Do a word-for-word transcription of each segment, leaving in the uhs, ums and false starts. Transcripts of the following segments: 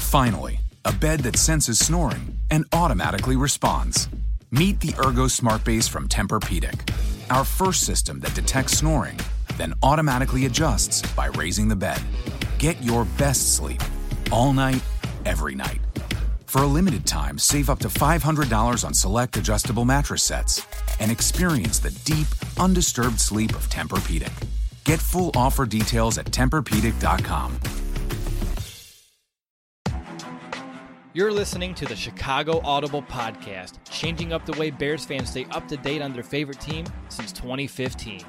Finally, a bed that senses snoring and automatically responds. Meet the Ergo Smart Base from Tempur-Pedic, our first system that detects snoring, then automatically adjusts by raising the bed. Get your best sleep all night, every night. For a limited time, save up to five hundred dollars on select adjustable mattress sets and experience the deep, undisturbed sleep of Tempur-Pedic. Get full offer details at Tempur Pedic dot com. You're listening to the Chicago Audible Podcast, changing up the way Bears fans stay up to date on their favorite team since twenty fifteen.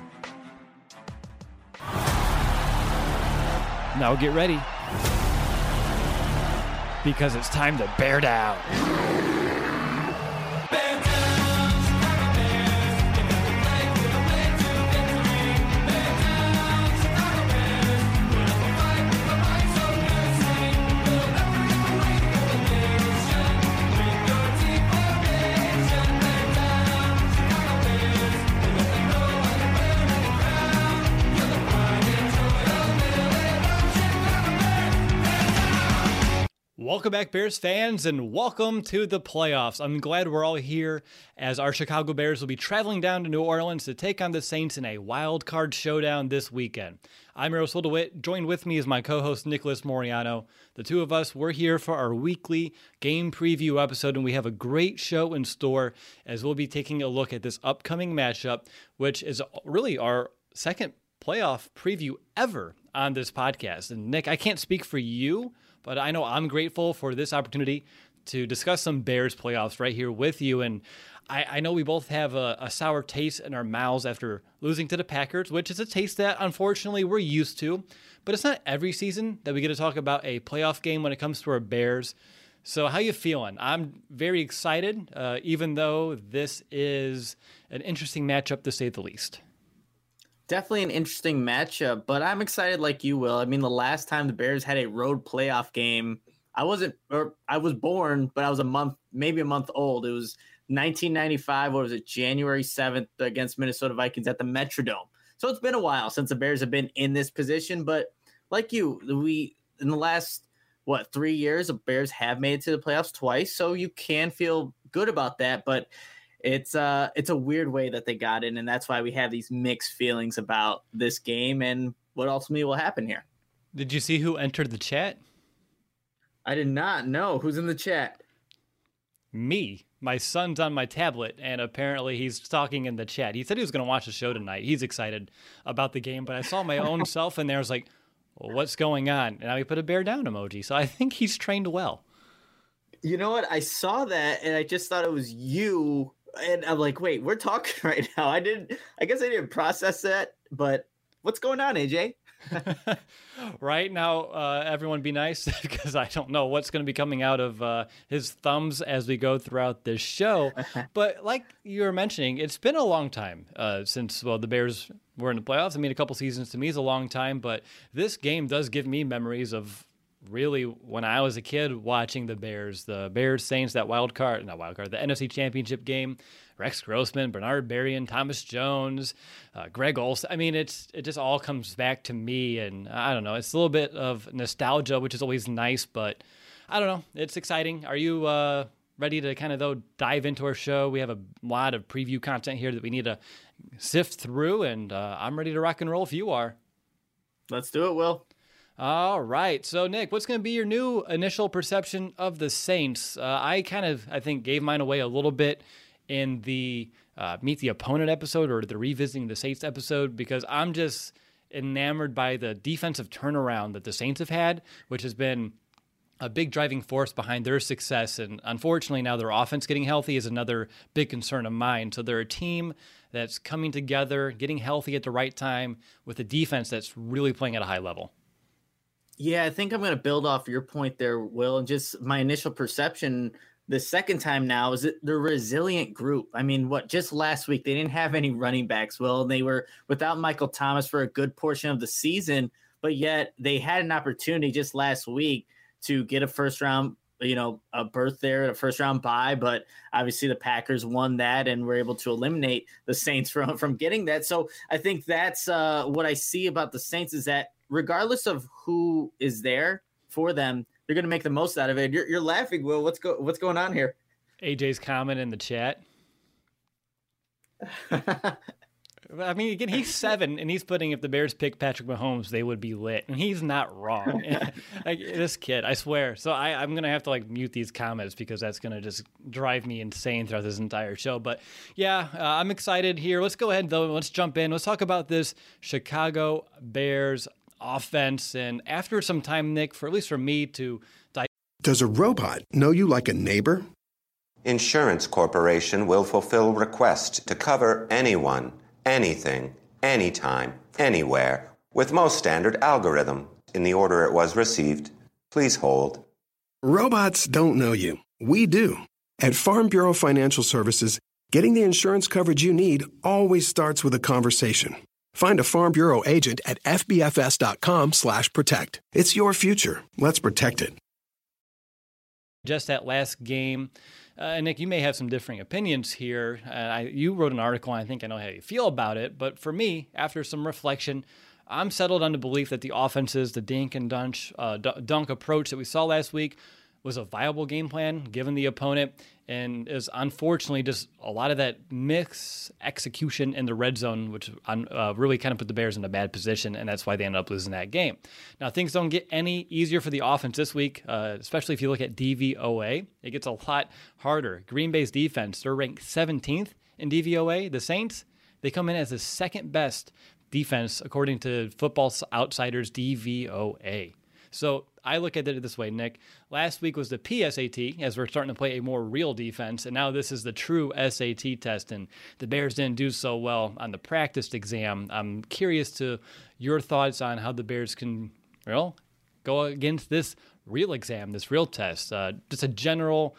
Now get ready, because it's time to bear down. Welcome back, Bears fans, and welcome to the playoffs. I'm glad we're all here as our Chicago Bears will be traveling down to New Orleans to take on the Saints in a wild card showdown this weekend. I'm Eros DeWitt. Joined with me is my co-host Nicholas Moriano. The two of us, we're here for our weekly game preview episode, and we have a great show in store as we'll be taking a look at this upcoming matchup, which is really our second playoff preview ever on this podcast. And Nick, I can't speak for you, but I know I'm grateful for this opportunity to discuss some Bears playoffs right here with you. And I, I know we both have a, a sour taste in our mouths after losing to the Packers, which is a taste that unfortunately we're used to. But it's not every season that we get to talk about a playoff game when it comes to our Bears. So how you feeling? I'm very excited, uh, even though this is an interesting matchup to say the least. Definitely an interesting matchup, but I'm excited like you will. I mean, the last time the Bears had a road playoff game, I wasn't, or I was born, but I was a month, maybe a month old. It was nineteen ninety-five. What was it? January seventh against Minnesota Vikings at the Metrodome. So it's been a while since the Bears have been in this position, but like you, we, in the last, what, three years, the Bears have made it to the playoffs twice. So you can feel good about that, but It's uh, it's a weird way that they got in, and that's why we have these mixed feelings about this game and what ultimately will happen here. Did you see who entered the chat? I did not know. Who's in the chat? Me. My son's on my tablet, and apparently he's talking in the chat. He said he was going to watch the show tonight. He's excited about the game, but I saw my own self in there. I was like, well, what's going on? And now he put a bear down emoji, so I think he's trained well. You know what? I saw that, and I just thought it was you. And I'm like, wait, we're talking right now. I didn't, I guess I didn't process that, but what's going on, A J? Right now, uh, everyone be nice because I don't know what's going to be coming out of uh, his thumbs as we go throughout this show. But like you were mentioning, it's been a long time uh, since, well, the Bears were in the playoffs. I mean, a couple seasons to me is a long time, but this game does give me memories of really when I was a kid watching the Bears, the Bears Saints, that wild card, not wild card, the N F C Championship game, Rex Grossman, Bernard Berrien, Thomas Jones, uh, Greg Olsen. I mean, it's it just all comes back to me, and I don't know, it's a little bit of nostalgia, which is always nice, but I don't know, it's exciting. Are you uh, ready to kind of though dive into our show? We have a lot of preview content here that we need to sift through, and uh, I'm ready to rock and roll if you are. Let's do it, Will. All right. So, Nick, what's going to be your new initial perception of the Saints? Uh, I kind of, I think, gave mine away a little bit in the uh, Meet the Opponent episode or the Revisiting the Saints episode because I'm just enamored by the defensive turnaround that the Saints have had, which has been a big driving force behind their success. And unfortunately, now their offense getting healthy is another big concern of mine. So they're a team that's coming together, getting healthy at the right time with a defense that's really playing at a high level. Yeah, I think I'm going to build off your point there, Will, and just my initial perception the second time now is that they're a resilient group. I mean, what, just last week, they didn't have any running backs, Will. They were without Michael Thomas for a good portion of the season, but yet they had an opportunity just last week to get a first round, you know, a berth there, a first round bye, but obviously the Packers won that and were able to eliminate the Saints from, from getting that. So I think that's uh, what I see about the Saints is that regardless of who is there for them, they're going to make the most out of it. You're, you're laughing, Will. What's go what's going on here? A J's comment in the chat. I mean, again, he's seven, and he's putting if the Bears pick Patrick Mahomes, they would be lit, and he's not wrong. Like, this kid, I swear. So I, I'm gonna have to like mute these comments because that's gonna just drive me insane throughout this entire show. But yeah, uh, I'm excited here. Let's go ahead though. Let's jump in. Let's talk about this Chicago Bears offense. And after some time, Nick, for at least for me to. Does a robot know you like a neighbor? Insurance Corporation will fulfill requests to cover anyone, anything, anytime, anywhere, with most standard algorithm in the order it was received. Please hold. Robots don't know you. We do. At Farm Bureau Financial Services, getting the insurance coverage you need always starts with a conversation. Find a Farm Bureau agent at fbfs.com slash protect. It's your future. Let's protect it. Just that last game. Uh, Nick, you may have some differing opinions here. Uh, I, you wrote an article, and I think I know how you feel about it. But for me, after some reflection, I'm settled on the belief that the offenses, the dink and dunk, uh, dunk approach that we saw last week was a viable game plan given the opponent, and is unfortunately just a lot of that mix execution in the red zone, which uh, really kind of put the Bears in a bad position, and that's why they ended up losing that game. Now, things don't get any easier for the offense this week, uh, especially if you look at D V O A. It gets a lot harder. Green Bay's defense, they're ranked seventeenth in D V O A. The Saints, they come in as the second best defense according to Football Outsiders D V O A. So I look at it this way, Nick. Last week was the P S A T, as we're starting to play a more real defense, and now this is the true S A T test, and the Bears didn't do so well on the practice exam. I'm curious to your thoughts on how the Bears can, well, go against this real exam, this real test. Uh, just a general,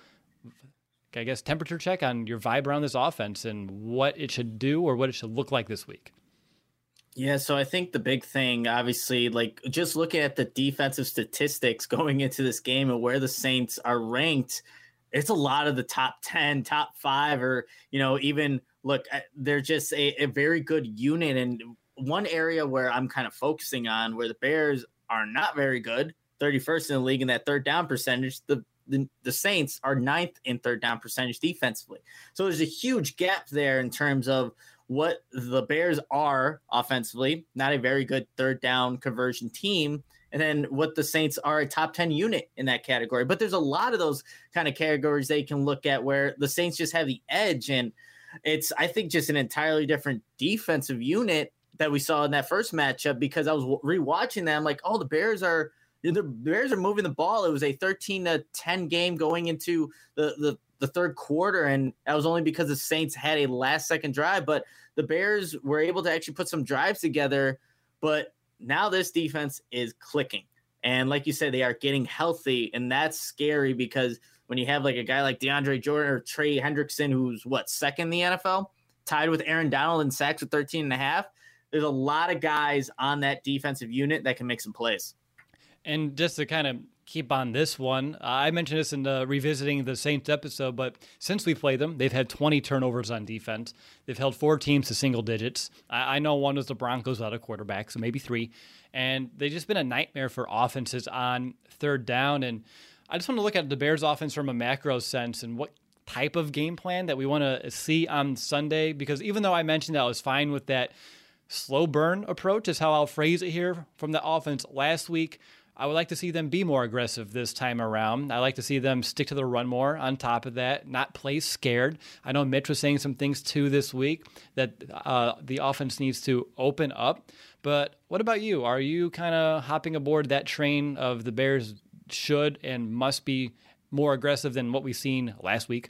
I guess, temperature check on your vibe around this offense and what it should do or what it should look like this week. Yeah, so I think the big thing, obviously, like just looking at the defensive statistics going into this game and where the Saints are ranked, it's a lot of the top ten, top five, or, you know, even look, they're just a, a very good unit. And one area where I'm kind of focusing on where the Bears are not very good, thirty-first in the league in that third down percentage, the The, the Saints are ninth in third down percentage defensively. So there's a huge gap there in terms of what the Bears are offensively, not a very good third down conversion team, and then what the Saints are a top ten unit in that category. But there's a lot of those kind of categories they can look at where the Saints just have the edge. And it's, I think, just an entirely different defensive unit that we saw in that first matchup, because I was rewatching them like, oh, the Bears are, the Bears are moving the ball. It was a thirteen to ten game going into the, the, the third quarter, and that was only because the Saints had a last-second drive. But the Bears were able to actually put some drives together. But now this defense is clicking. And like you said, they are getting healthy, and that's scary because when you have like a guy like DeAndre Jordan or Trey Hendrickson, who's, what, second in the N F L, tied with Aaron Donald in sacks with thirteen and a half, there's a lot of guys on that defensive unit that can make some plays. And just to kind of keep on this one, uh, I mentioned this in the Revisiting the Saints episode, but since we played them, they've had twenty turnovers on defense. They've held four teams to single digits. I, I know one was the Broncos without a quarterback, so maybe three. And they've just been a nightmare for offenses on third down. And I just want to look at the Bears offense from a macro sense and what type of game plan that we want to see on Sunday, because even though I mentioned that I was fine with that slow burn approach is how I'll phrase it here from the offense last week, I would like to see them be more aggressive this time around. I like to see them stick to the run more on top of that, not play scared. I know Mitch was saying some things too this week that uh, the offense needs to open up. But what about you? Are you kind of hopping aboard that train of the Bears should and must be more aggressive than what we've seen last week?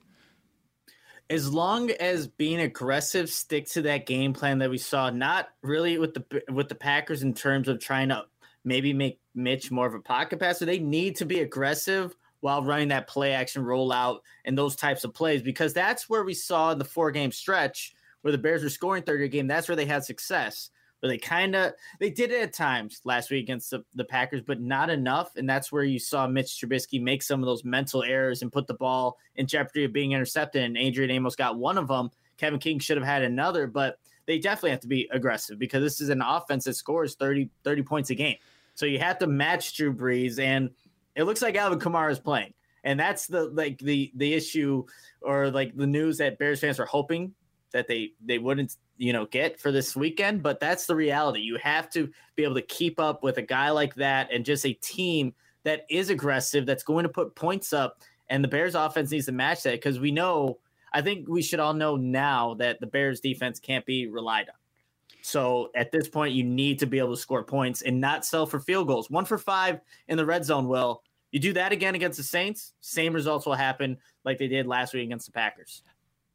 As long as being aggressive, stick to that game plan that we saw, not really with the with the Packers in terms of trying to maybe make Mitch more of a pocket passer. They need to be aggressive while running that play action rollout and those types of plays, because that's where we saw in the four game stretch where the Bears were scoring thirty a game. That's where they had success. But they kind of, they did it at times last week against the, the Packers, but not enough. And that's where you saw Mitch Trubisky make some of those mental errors and put the ball in jeopardy of being intercepted. And Adrian Amos got one of them. Kevin King should have had another, but they definitely have to be aggressive because this is an offense that scores thirty, thirty points a game. So you have to match Drew Brees. And it looks like Alvin Kamara is playing. And that's the like the the issue or like the news that Bears fans are hoping that they they wouldn't, you know, get for this weekend. But that's the reality. You have to be able to keep up with a guy like that and just a team that is aggressive, that's going to put points up. And the Bears offense needs to match that because we know, I think we should all know now that the Bears defense can't be relied on. So at this point, you need to be able to score points and not sell for field goals. One for five in the red zone, Will. You do that again against the Saints, same results will happen like they did last week against the Packers.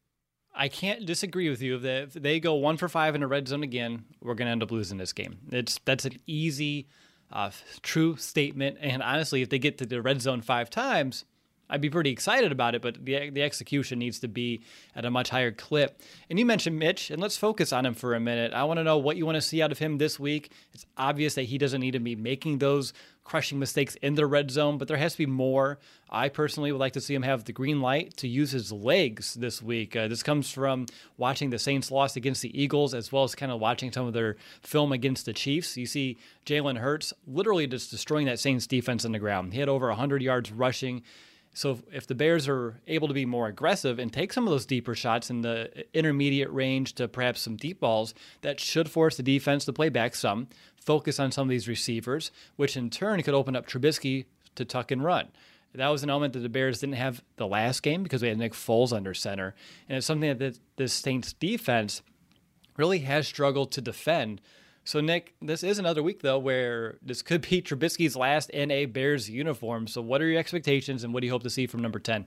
I can't disagree with you. If they, if they go one for five in the red zone again, we're going to end up losing this game. It's That's an easy, uh, true statement. And honestly, if they get to the red zone five times, I'd be pretty excited about it, but the the execution needs to be at a much higher clip. And you mentioned Mitch, and let's focus on him for a minute. I want to know what you want to see out of him this week. It's obvious that he doesn't need to be making those crushing mistakes in the red zone, but there has to be more. I personally would like to see him have the green light to use his legs this week. Uh, this comes from watching the Saints loss against the Eagles, as well as kind of watching some of their film against the Chiefs. You see Jalen Hurts literally just destroying that Saints defense on the ground. He had over one hundred yards rushing. So if the Bears are able to be more aggressive and take some of those deeper shots in the intermediate range to perhaps some deep balls, that should force the defense to play back some, focus on some of these receivers, which in turn could open up Trubisky to tuck and run. That was an element that the Bears didn't have the last game because we had Nick Foles under center. And it's something that this Saints defense really has struggled to defend. So, Nick, this is another week, though, where this could be Trubisky's last in a Bears uniform. So what are your expectations, and what do you hope to see from number ten?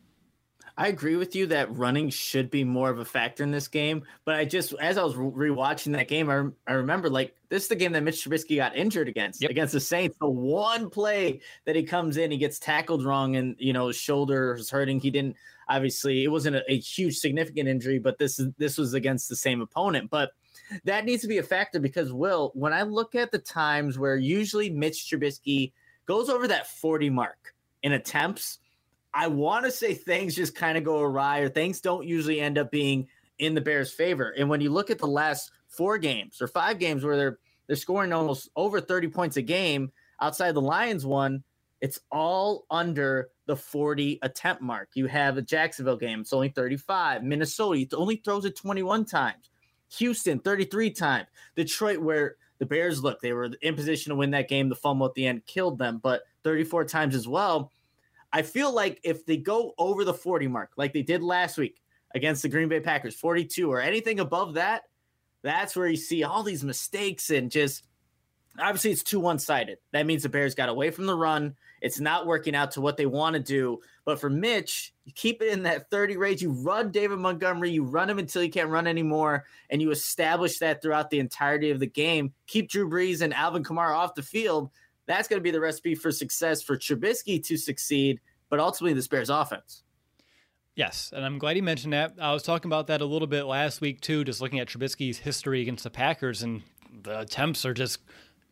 I agree with you that running should be more of a factor in this game. But I just, as I was rewatching that game, I, I remember, like, this is the game that Mitch Trubisky got injured against, yep. against the Saints. The one play that he comes in, he gets tackled wrong, and, you know, his shoulder is hurting. He didn't, obviously, it wasn't a, a huge, significant injury, but this is this was against the same opponent. But that needs to be a factor because, Will, when I look at the times where usually Mitch Trubisky goes over that forty mark in attempts, I want to say things just kind of go awry or things don't usually end up being in the Bears' favor. And when you look at the last four games or five games where they're they're scoring almost over thirty points a game outside the Lions one, it's all under the forty attempt mark. You have a Jacksonville game, it's only thirty-five. Minnesota, he only throws it twenty-one times. Houston, thirty-three times. Detroit, where the Bears, look, they were in position to win that game. The fumble at the end killed them, but thirty-four times as well. I feel like if they go over the forty mark, like they did last week against the Green Bay Packers, forty-two or anything above that, that's where you see all these mistakes and just obviously it's too one-sided. That means the Bears got away from the run. It's not working out to what they want to do. But for Mitch, you keep it in that thirty range. You run David Montgomery. You run him until you can't run anymore, and you establish that throughout the entirety of the game. Keep Drew Brees and Alvin Kamara off the field. That's going to be the recipe for success for Trubisky to succeed, but ultimately this Bears offense. Yes, and I'm glad you mentioned that. I was talking about that a little bit last week, too, just looking at Trubisky's history against the Packers, and the attempts are just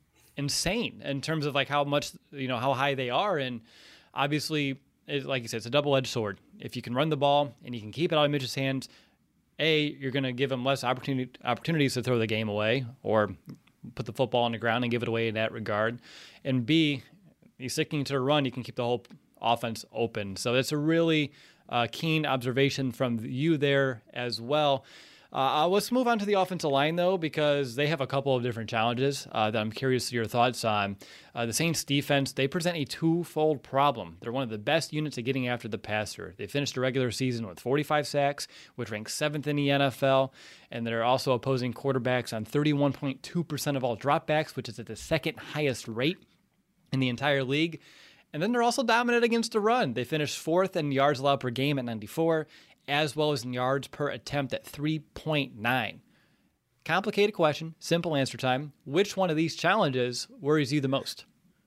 insane in terms of like how much, you know, how high they are. And obviously, it, like you said, it's a double-edged sword. If you can run the ball and you can keep it out of Mitch's hands, A, you're going to give him less opportunity, opportunities to throw the game away or put the football on the ground and give it away in that regard. And B, he's sticking to the run, you can keep the whole offense open. So that's a really uh, keen observation from you there as well. Uh, let's move on to the offensive line, though, because they have a couple of different challenges uh, that I'm curious to your thoughts on. Uh, the Saints defense, they present a twofold problem. They're one of the best units at getting after the passer. They finished the regular season with forty-five sacks, which ranks seventh in the N F L, and they're also opposing quarterbacks on thirty-one point two percent of all dropbacks, which is at the second highest rate in the entire league. And then they're also dominant against the run. They finished fourth in yards allowed per game at ninety-four, as well as in yards per attempt at three point nine. Complicated question, simple answer time. Which one of these challenges worries you the most?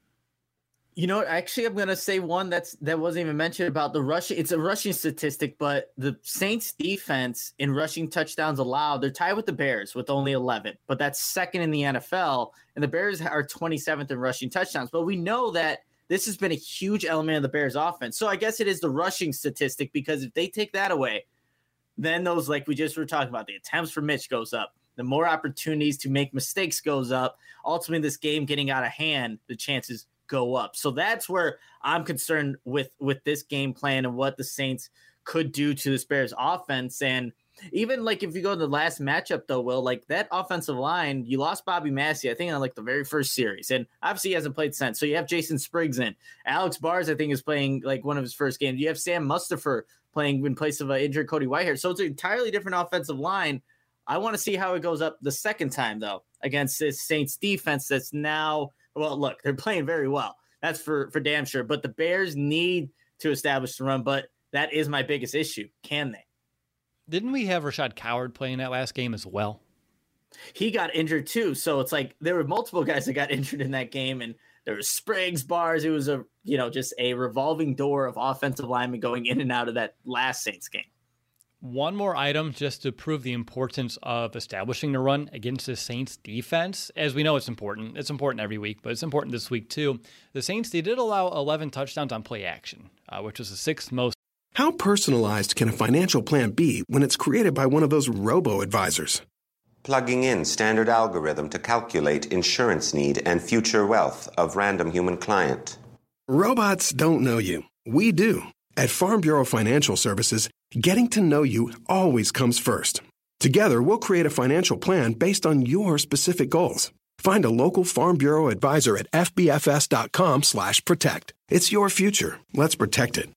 You know what? Actually, I'm going to say one that's that wasn't even mentioned about the rushing. It's a rushing statistic, but the Saints defense in rushing touchdowns allowed, they're tied with the Bears with only eleven, but that's second in the N F L, and the Bears are twenty-seventh in rushing touchdowns. But we know that this has been a huge element of the Bears offense. So I guess it is the rushing statistic, because if they take that away, then those, like we just were talking about, the attempts for Mitch goes up. The more opportunities to make mistakes goes up. Ultimately, this game getting out of hand, the chances go up. So that's where I'm concerned with, with this game plan and what the Saints could do to this Bears offense. And even like if you go to the last matchup though, Will, like that offensive line, you lost Bobby Massey, I think on like the very first series, and obviously he hasn't played since. So you have Jason Spriggs in. Alex Bars, I think, is playing like one of his first games. You have Sam Mustipher playing in place of an injured Cody Whitehair. So it's an entirely different offensive line. I want to see how it goes up the second time though against this Saints defense that's now, well, look, they're playing very well. That's for for damn sure. But the Bears need to establish the run. But that is my biggest issue. Can they? Didn't we have Rashad Coward playing that last game as well? He got injured too. So it's like there were multiple guys that got injured in that game, and there was Spriggs, Bars. It was a, you know, just a revolving door of offensive linemen going in and out of that last Saints game. One more item just to prove the importance of establishing the run against the Saints defense. As we know, it's important. It's important every week, but it's important this week too. The Saints, they did allow eleven touchdowns on play action, uh, which was the sixth most. How personalized can a financial plan be when it's created by one of those robo-advisors? Plugging in standard algorithm to calculate insurance need and future wealth of random human client. Robots don't know you. We do. At Farm Bureau Financial Services, getting to know you always comes first. Together, we'll create a financial plan based on your specific goals. Find a local Farm Bureau advisor at fbfs.com slash protect. It's your future. Let's protect it.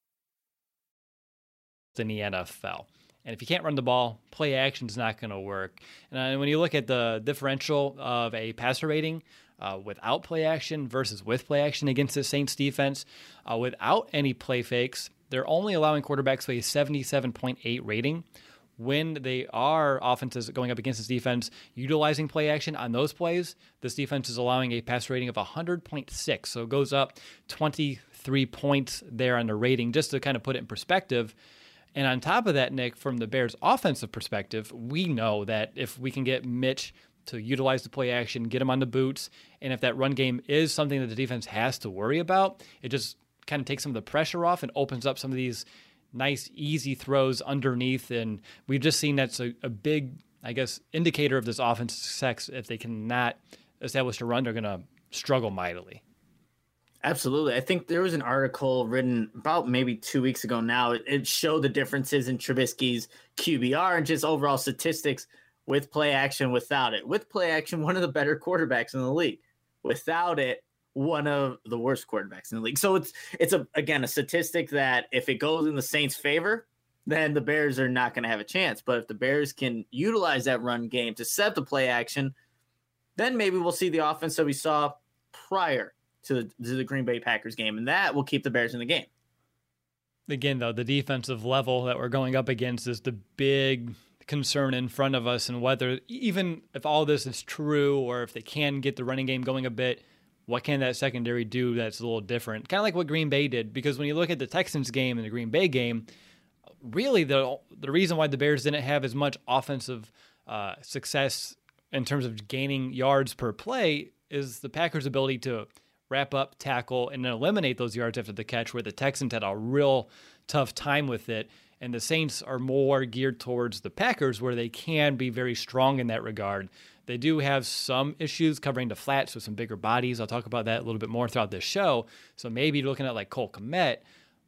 In the N F L. And if you can't run the ball, play action is not going to work. And when you look at the differential of a passer rating uh, without play action versus with play action against the Saints defense, uh, without any play fakes, they're only allowing quarterbacks to a seventy-seven point eight rating. When they are offenses going up against this defense, utilizing play action on those plays, this defense is allowing a passer rating of one hundred point six. So it goes up twenty-three points there on the rating, just to kind of put it in perspective. And on top of that, Nick, from the Bears' offensive perspective, we know that if we can get Mitch to utilize the play action, get him on the boots, and if that run game is something that the defense has to worry about, it just kind of takes some of the pressure off and opens up some of these nice, easy throws underneath. And we've just seen that's a, a big, I guess, indicator of this offense's success. If they cannot establish a run, they're going to struggle mightily. Absolutely. I think there was an article written about maybe two weeks ago now. It, it showed the differences in Trubisky's Q B R and just overall statistics with play action, without it. With play action, one of the better quarterbacks in the league. Without it, one of the worst quarterbacks in the league. So it's, it's a again, a statistic that if it goes in the Saints' favor, then the Bears are not going to have a chance. But if the Bears can utilize that run game to set the play action, then maybe we'll see the offense that we saw prior to the, to the Green Bay Packers game, and that will keep the Bears in the game. Again, though, the defensive level that we're going up against is the big concern in front of us, and whether, even if all this is true or if they can get the running game going a bit, what can that secondary do that's a little different? Kind of like what Green Bay did, because when you look at the Texans game and the Green Bay game, really the the reason why the Bears didn't have as much offensive uh, success in terms of gaining yards per play is the Packers' ability to wrap up, tackle, and then eliminate those yards after the catch, where the Texans had a real tough time with it. And the Saints are more geared towards the Packers, where they can be very strong in that regard. They do have some issues covering the flats with some bigger bodies. I'll talk about that a little bit more throughout this show. So maybe looking at like Cole Kmet,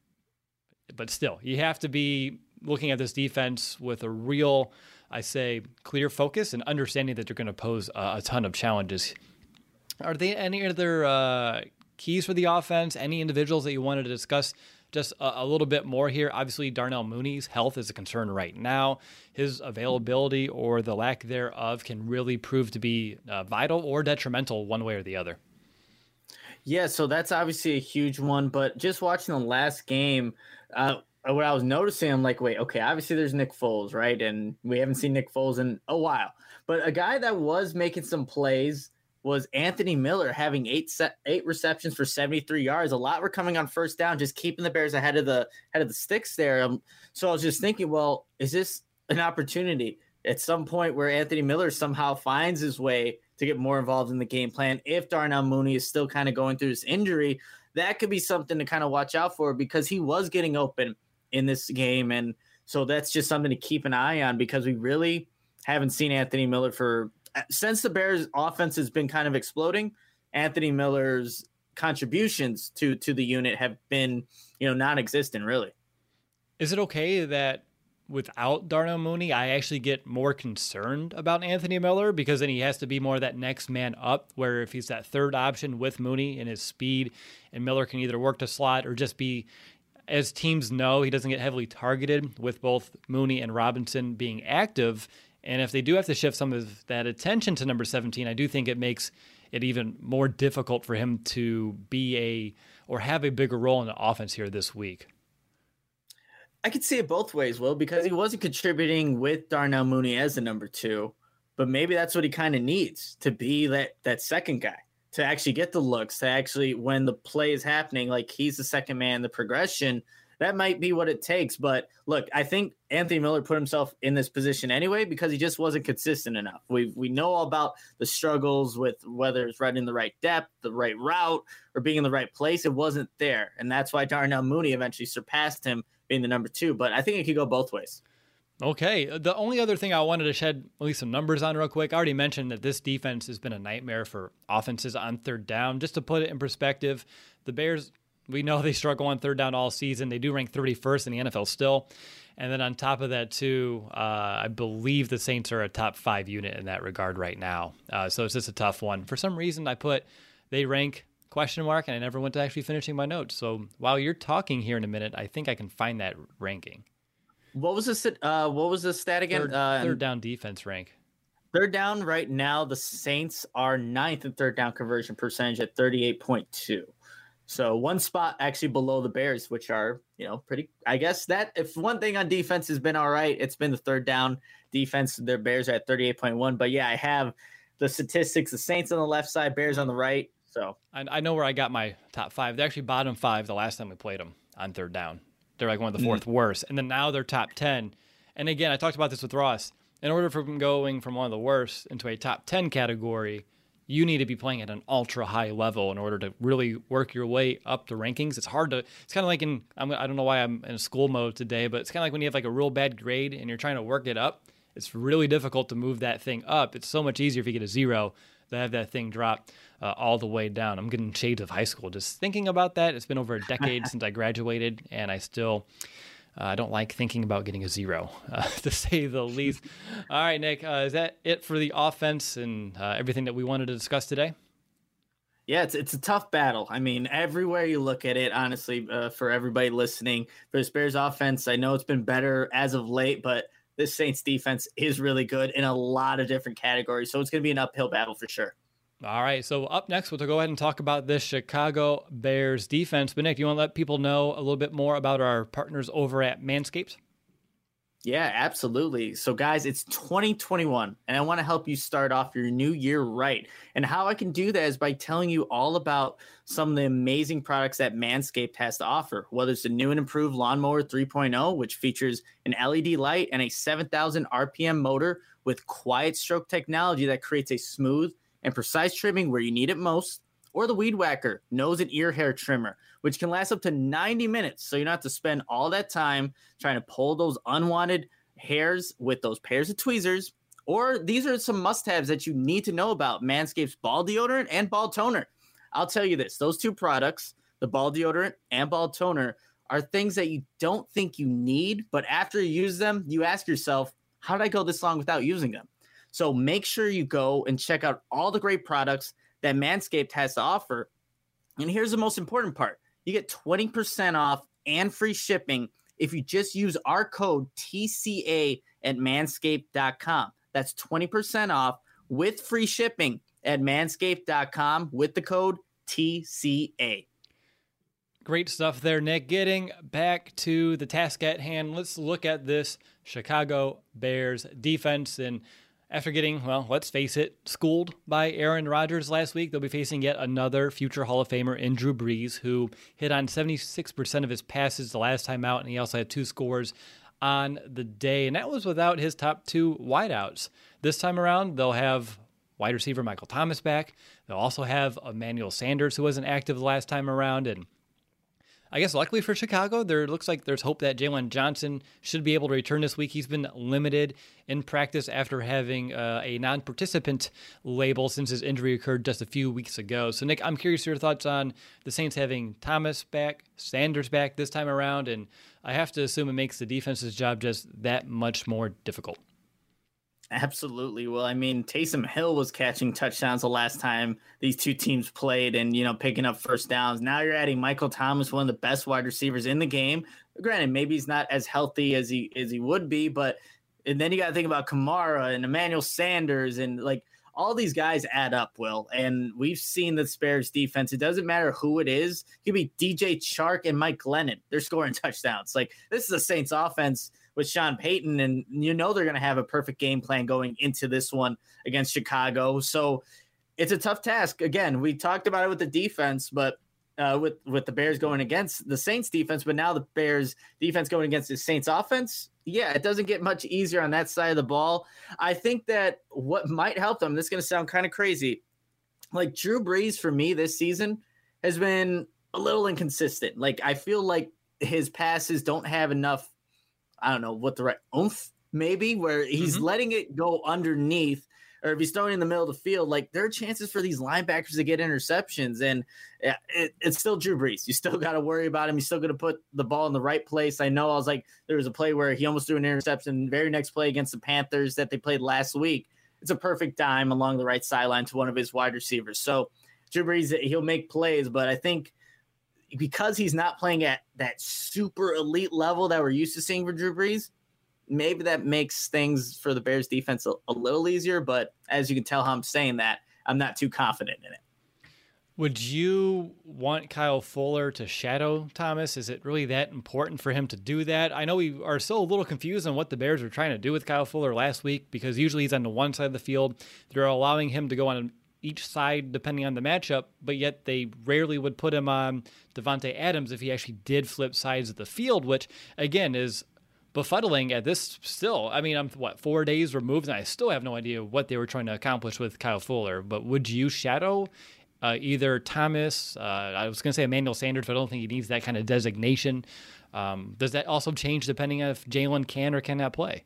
but still, you have to be looking at this defense with a real, I say, clear focus and understanding that they're going to pose a, a ton of challenges. Are there any other uh, keys for the offense? Any individuals that you wanted to discuss just a, a little bit more here? Obviously, Darnell Mooney's health is a concern right now. His availability or the lack thereof can really prove to be uh, vital or detrimental one way or the other. Yeah, so that's obviously a huge one. But just watching the last game, uh, what I was noticing, I'm like, wait, okay, obviously there's Nick Foles, right? And we haven't seen Nick Foles in a while. But a guy that was making some plays was Anthony Miller, having eight set, eight receptions for seventy-three yards. A lot were coming on first down, just keeping the Bears ahead of the head of the sticks there. Um, so I was just thinking, well, is this an opportunity at some point where Anthony Miller somehow finds his way to get more involved in the game plan? If Darnell Mooney is still kind of going through this injury, that could be something to kind of watch out for, because he was getting open in this game. And so that's just something to keep an eye on, because we really haven't seen Anthony Miller for since the Bears offense has been kind of exploding. Anthony Miller's contributions to to the unit have been, you know, non-existent really. Is it okay that without Darnell Mooney, I actually get more concerned about Anthony Miller because then he has to be more that next man up, where if he's that third option with Mooney and his speed, and Miller can either work the slot or just be, as teams know, he doesn't get heavily targeted with both Mooney and Robinson being active. And if they do have to shift some of that attention to number seventeen, I do think it makes it even more difficult for him to be a or have a bigger role in the offense here this week. I could see it both ways, Will, because he wasn't contributing with Darnell Mooney as the number two, but maybe that's what he kind of needs to be that that second guy, to actually get the looks, to actually, when the play is happening, like he's the second man, the progression, that might be what it takes. But look, I think Anthony Miller put himself in this position anyway because he just wasn't consistent enough. We we know all about the struggles with whether it's running the right depth, the right route, or being in the right place. It wasn't there, and that's why Darnell Mooney eventually surpassed him being the number two, but I think it could go both ways. Okay. The only other thing I wanted to shed at least some numbers on real quick, I already mentioned that this defense has been a nightmare for offenses on third down. Just to put it in perspective, the Bears, we know they struggle on third down all season. They do rank thirty-first in the N F L still. And then on top of that, too, uh, I believe the Saints are a top five unit in that regard right now. Uh, so it's just a tough one. For some reason, I put they rank question mark, and I never went to actually finishing my notes. So while you're talking here in a minute, I think I can find that ranking. What was the uh, what was the stat again? Third, uh, third down defense rank. Third down right now, the Saints are ninth in third down conversion percentage at thirty-eight point two. So one spot actually below the Bears, which are, you know, pretty, I guess that if one thing on defense has been all right, it's been the third down defense. Their Bears are at thirty-eight point one. But yeah, I have the statistics, the Saints on the left side, Bears on the right. So I, I know where I got my top five. They're actually bottom five the last time we played them on third down. They're like one of the fourth mm. worst. And then now they're top ten. And again, I talked about this with Ross. In order for them going from one of the worst into a top ten category, you need to be playing at an ultra high level in order to really work your way up the rankings. It's hard to, it's kind of like in, I'm, I don't know why I'm in school mode today, but it's kind of like when you have like a real bad grade and you're trying to work it up. It's really difficult to move that thing up. It's so much easier if you get a zero to have that thing drop uh, all the way down. I'm getting shades of high school just thinking about that. It's been over a decade since I graduated, and I still uh, I don't like thinking about getting a zero, uh, to say the least. All right, Nick, uh, is that it for the offense and uh, everything that we wanted to discuss today? Yeah, it's it's a tough battle. I mean, everywhere you look at it, honestly, uh, for everybody listening, for the Bears offense, I know it's been better as of late, but this Saints defense is really good in a lot of different categories. So it's going to be an uphill battle for sure. All right. So up next, we'll go ahead and talk about this Chicago Bears defense. But Nick, do you want to let people know a little bit more about our partners over at Manscaped? Yeah, absolutely. So guys, it's twenty twenty-one and I want to help you start off your new year right. And how I can do that is by telling you all about some of the amazing products that Manscaped has to offer, whether it's the new and improved Lawnmower three point oh, which features an L E D light and a seven thousand R P M motor with quiet stroke technology that creates a smooth and precise trimming where you need it most, or the Weed Whacker nose and ear hair trimmer, which can last up to ninety minutes. So you don't have to spend all that time trying to pull those unwanted hairs with those pairs of tweezers. Or these are some must-haves that you need to know about Manscaped's ball deodorant and ball toner. I'll tell you this, those two products, the ball deodorant and ball toner, are things that you don't think you need, but after you use them, you ask yourself, how did I go this long without using them? So make sure you go and check out all the great products that Manscaped has to offer. And here's the most important part. You get twenty percent off and free shipping if you just use our code T C A at manscaped dot com. That's twenty percent off with free shipping at manscaped dot com with the code T C A. Great stuff there, Nick. Getting back to the task at hand, let's look at this Chicago Bears defense. And after getting, well, let's face it, schooled by Aaron Rodgers last week, they'll be facing yet another future Hall of Famer in Drew Brees, who hit on seventy-six percent of his passes the last time out, and he also had two scores on the day, and that was without his top two wideouts. This time around, they'll have wide receiver Michael Thomas back. They'll also have Emmanuel Sanders, who wasn't active the last time around, and I guess luckily for Chicago, there looks like there's hope that Jalen Johnson should be able to return this week. He's been limited in practice after having uh, a non-participant label since his injury occurred just a few weeks ago. So, Nick, I'm curious your thoughts on the Saints having Thomas back, Sanders back this time around, and I have to assume it makes the defense's job just that much more difficult. Absolutely. Well, I mean, Taysom Hill was catching touchdowns the last time these two teams played and, you know, picking up first downs. Now you're adding Michael Thomas, one of the best wide receivers in the game. Granted, maybe he's not as healthy as he as he would be, but and then you got to think about Kamara and Emmanuel Sanders and like all these guys add up, Will. And we've seen the Bears defense. It doesn't matter who it is. It could be D J Chark and Mike Glennon. They're scoring touchdowns. Like this is a Saints offense with Sean Payton, and you know they're going to have a perfect game plan going into this one against Chicago. So it's a tough task. Again, we talked about it with the defense, but uh, with, with the Bears going against the Saints defense, but now the Bears defense going against the Saints offense. Yeah, it doesn't get much easier on that side of the ball. I think that what might help them, this is going to sound kind of crazy. Like Drew Brees for me this season has been a little inconsistent. Like I feel like his passes don't have enough, I don't know what the right oomph maybe, where he's mm-hmm. letting it go underneath, or if he's throwing in the middle of the field, like there are chances for these linebackers to get interceptions, and it, it's still Drew Brees. You still got to worry about him. He's still going to put the ball in the right place. I know I was like, there was a play where he almost threw an interception. Very next play against the Panthers that they played last week, it's a perfect dime along the right sideline to one of his wide receivers. So Drew Brees, he'll make plays, but I think because he's not playing at that super elite level that we're used to seeing for Drew Brees, maybe that makes things for the Bears defense a, a little easier. But as you can tell how I'm saying that, I'm not too confident in it. Would you want Kyle Fuller to shadow Thomas? Is it really that important for him to do that? I know we are still a little confused on what the Bears were trying to do with Kyle Fuller last week, because usually he's on the one side of the field. They're allowing him to go on each side depending on the matchup, but yet they rarely would put him on Davante Adams if he actually did flip sides of the field, which again is befuddling at this still. I mean, I'm what, four days removed and I still have no idea what they were trying to accomplish with Kyle Fuller. But would you shadow uh, either Thomas, uh, I was going to say Emmanuel Sanders, but I don't think he needs that kind of designation. Um, does that also change depending on if Jalen can or cannot play?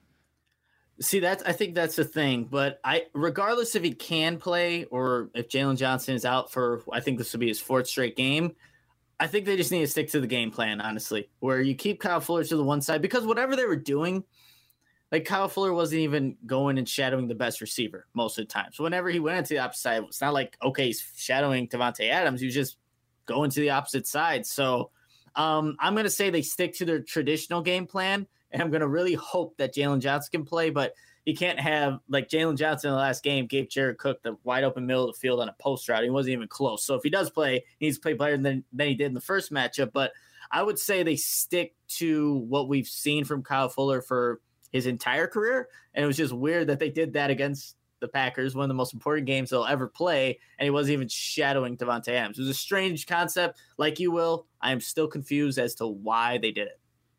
See, that's, I think that's the thing, but I, regardless if he can play or if Jalen Johnson is out for, I think this will be his fourth straight game, I think they just need to stick to the game plan, honestly, where you keep Kyle Fuller to the one side, because whatever they were doing, like Kyle Fuller wasn't even going and shadowing the best receiver most of the time. So whenever he went into the opposite side, it's not like, okay, he's shadowing Davante Adams. He was just going to the opposite side. So um, I'm going to say they stick to their traditional game plan. And I'm going to really hope that Jalen Johnson can play, but you can't have, like Jalen Johnson in the last game gave Jared Cook the wide open middle of the field on a post route. He wasn't even close. So if he does play, he needs to play better than, than he did in the first matchup. But I would say they stick to what we've seen from Kyle Fuller for his entire career. And it was just weird that they did that against the Packers, one of the most important games they'll ever play, and he wasn't even shadowing Davante Adams. It was a strange concept. Like you, Will, I am still confused as to why they did it.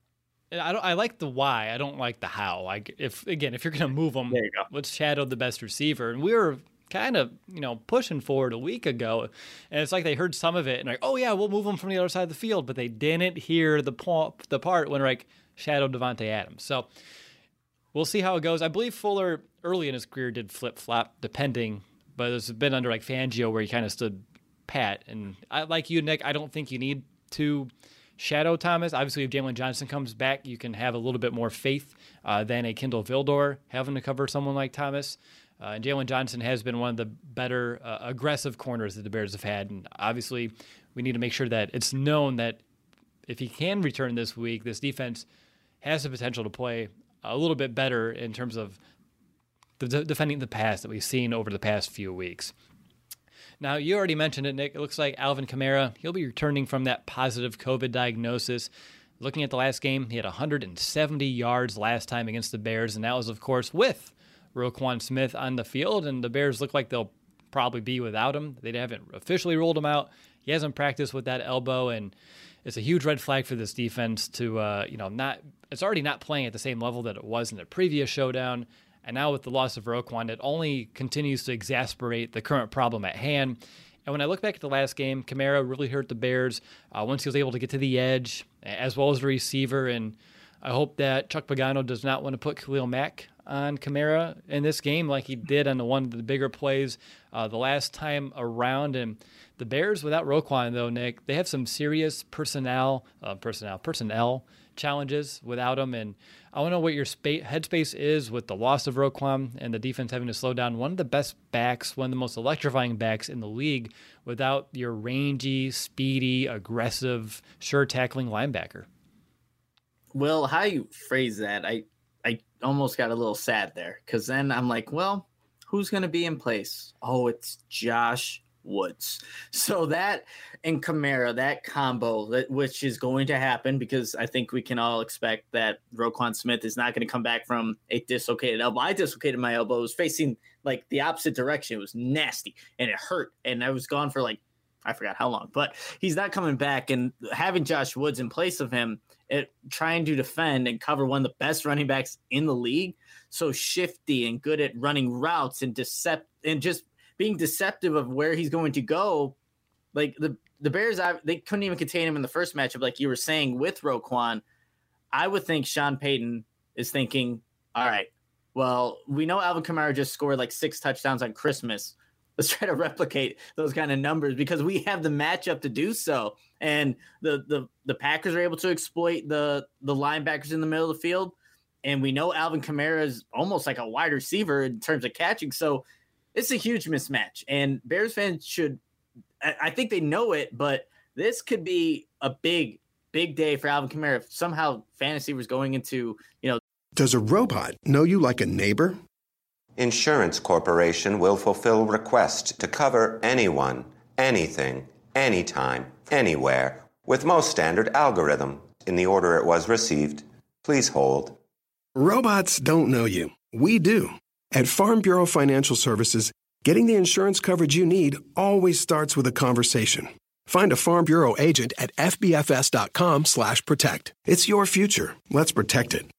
I don't. I like the why. I don't like the how. Like if again, if you're going to move them, there you go. Let's shadow the best receiver. And we were kind of you know pushing forward a week ago, and it's like they heard some of it and like, oh yeah, we'll move them from the other side of the field, but they didn't hear the po- the part when like shadow Davante Adams. So we'll see how it goes. I believe Fuller early in his career did flip flop, depending, but it's been under like Fangio where he kind of stood pat. And I like you, Nick. I don't think you need to shadow Thomas. Obviously, if Jalen Johnson comes back, you can have a little bit more faith uh, than a Kendall Vildor having to cover someone like Thomas. Uh, and Jalen Johnson has been one of the better uh, aggressive corners that the Bears have had. And obviously, we need to make sure that it's known that if he can return this week, this defense has the potential to play a little bit better in terms of the de- defending the pass that we've seen over the past few weeks. Now, you already mentioned it, Nick. It looks like Alvin Kamara, he'll be returning from that positive COVID diagnosis. Looking at the last game, he had one hundred seventy yards last time against the Bears, and that was, of course, with Roquan Smith on the field, and the Bears look like they'll probably be without him. They haven't officially ruled him out. He hasn't practiced with that elbow, and it's a huge red flag for this defense to, uh, you know, not. It's already not playing at the same level that it was in the previous showdown. And now with the loss of Roquan, it only continues to exasperate the current problem at hand. And when I look back at the last game, Kamara really hurt the Bears uh, once he was able to get to the edge, as well as the receiver. And I hope that Chuck Pagano does not want to put Khalil Mack on Kamara in this game like he did on the one of the bigger plays uh, the last time around. And the Bears, without Roquan, though, Nick, they have some serious personnel, uh, personnel, personnel challenges without him. And I want to know what your spa- headspace is with the loss of Roquan and the defense having to slow down one of the best backs, one of the most electrifying backs in the league without your rangy, speedy, aggressive, sure tackling linebacker. Well, how you phrase that, I, I almost got a little sad there because then I'm like, well, who's going to be in place? Oh, it's Josh Woods. So that and Kamara, that combo, that which is going to happen because I think we can all expect that Roquan Smith is not going to come back from a dislocated elbow. I dislocated my elbow. It was facing like the opposite direction. It was nasty and it hurt. And I was gone for like, I forgot how long, but he's not coming back. And having Josh Woods in place of him, it, trying to defend and cover one of the best running backs in the league, so shifty and good at running routes and decept and just being deceptive of where he's going to go. Like the, the Bears, I, they couldn't even contain him in the first matchup, like you were saying with Roquan. I would think Sean Payton is thinking, all right, well, we know Alvin Kamara just scored like six touchdowns on Christmas. Let's try to replicate those kind of numbers because we have the matchup to do so. And the the the Packers are able to exploit the the linebackers in the middle of the field. And we know Alvin Kamara is almost like a wide receiver in terms of catching. So it's a huge mismatch. And Bears fans should, I think they know it, but this could be a big, big day for Alvin Kamara if somehow fantasy was going into, you know. Does a robot know you like a neighbor? Insurance Corporation will fulfill request to cover anyone, anything, anytime, anywhere, with most standard algorithm in the order it was received. Please hold. Robots don't know you. We do. At Farm Bureau Financial Services, getting the insurance coverage you need always starts with a conversation. Find a Farm Bureau agent at fbfs.com slash protect. It's your future. Let's protect it.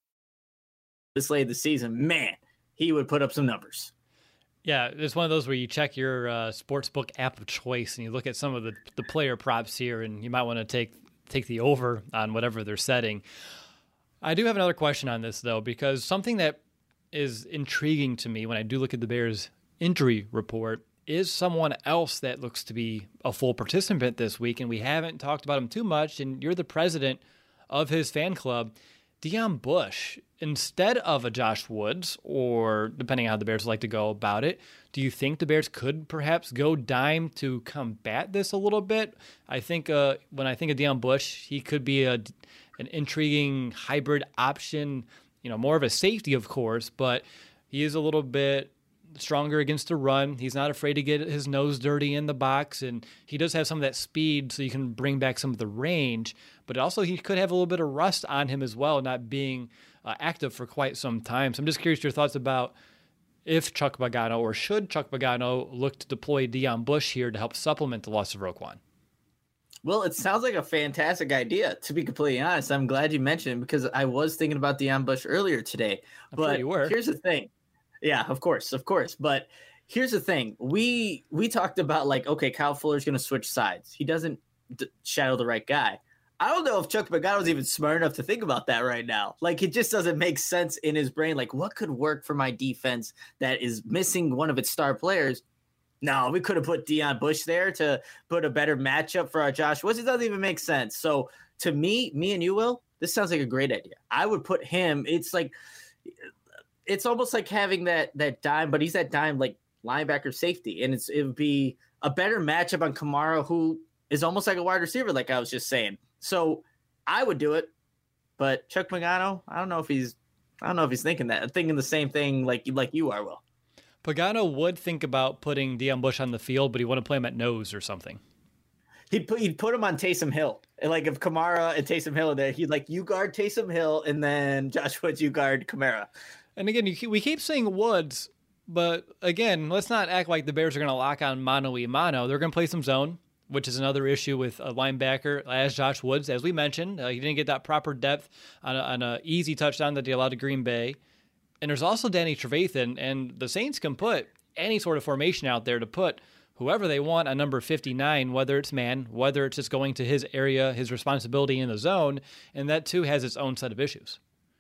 This late in the season, man, he would put up some numbers. Yeah, it's one of those where you check your uh, sportsbook app of choice and you look at some of the, the player props here, and you might want to take take the over on whatever they're setting. I do have another question on this, though, because something that is intriguing to me when I do look at the Bears injury report is someone else that looks to be a full participant this week, and we haven't talked about him too much, and you're the president of his fan club. Deon Bush, instead of a Josh Woods, or depending on how the Bears like to go about it, do you think the Bears could perhaps go dime to combat this a little bit? I think uh, when I think of Deon Bush, he could be a, an intriguing hybrid option, you know, more of a safety, of course, but he is a little bit stronger against the run. He's not afraid to get his nose dirty in the box, and he does have some of that speed, so you can bring back some of the range. But also, he could have a little bit of rust on him as well, not being uh, active for quite some time. So I'm just curious your thoughts about if Chuck Pagano, or should Chuck Pagano look to deploy Deon Bush here to help supplement the loss of Roquan? Well, it sounds like a fantastic idea, to be completely honest. I'm glad you mentioned it because I was thinking about Deon Bush earlier today. I'm but sure you were. Here's the thing. Yeah, of course, of course. But here's the thing. We we talked about like, okay, Kyle Fuller's going to switch sides. He doesn't d- shadow the right guy. I don't know if Chuck Pagano's even smart enough to think about that right now. Like, it just doesn't make sense in his brain. Like, what could work for my defense that is missing one of its star players? No, we could have put Deon Bush there to put a better matchup for our Josh Woods. It doesn't even make sense. So to me, me and you, Will, this sounds like a great idea. I would put him. It's like – it's almost like having that that dime, but he's that dime like linebacker safety, and it's it would be a better matchup on Kamara, who is almost like a wide receiver, like I was just saying. So I would do it, but Chuck Pagano, I don't know if he's I don't know if he's thinking that. I'm thinking the same thing like like you are, Will. Pagano would think about putting Deon Bush on the field, but he wouldn't play him at nose or something. He'd put he'd put him on Taysom Hill, and like if Kamara and Taysom Hill are there, he'd like you guard Taysom Hill, and then Josh Woods you guard Kamara. And again, you, we keep saying Woods, but again, let's not act like the Bears are going to lock on mano-y-mano. They're going to play some zone, which is another issue with a linebacker as Josh Woods. As we mentioned, uh, he didn't get that proper depth on an on a easy touchdown that they allowed to Green Bay. And there's also Danny Trevathan, and the Saints can put any sort of formation out there to put whoever they want on number fifty-nine, whether it's man, whether it's just going to his area, his responsibility in the zone, and that too has its own set of issues.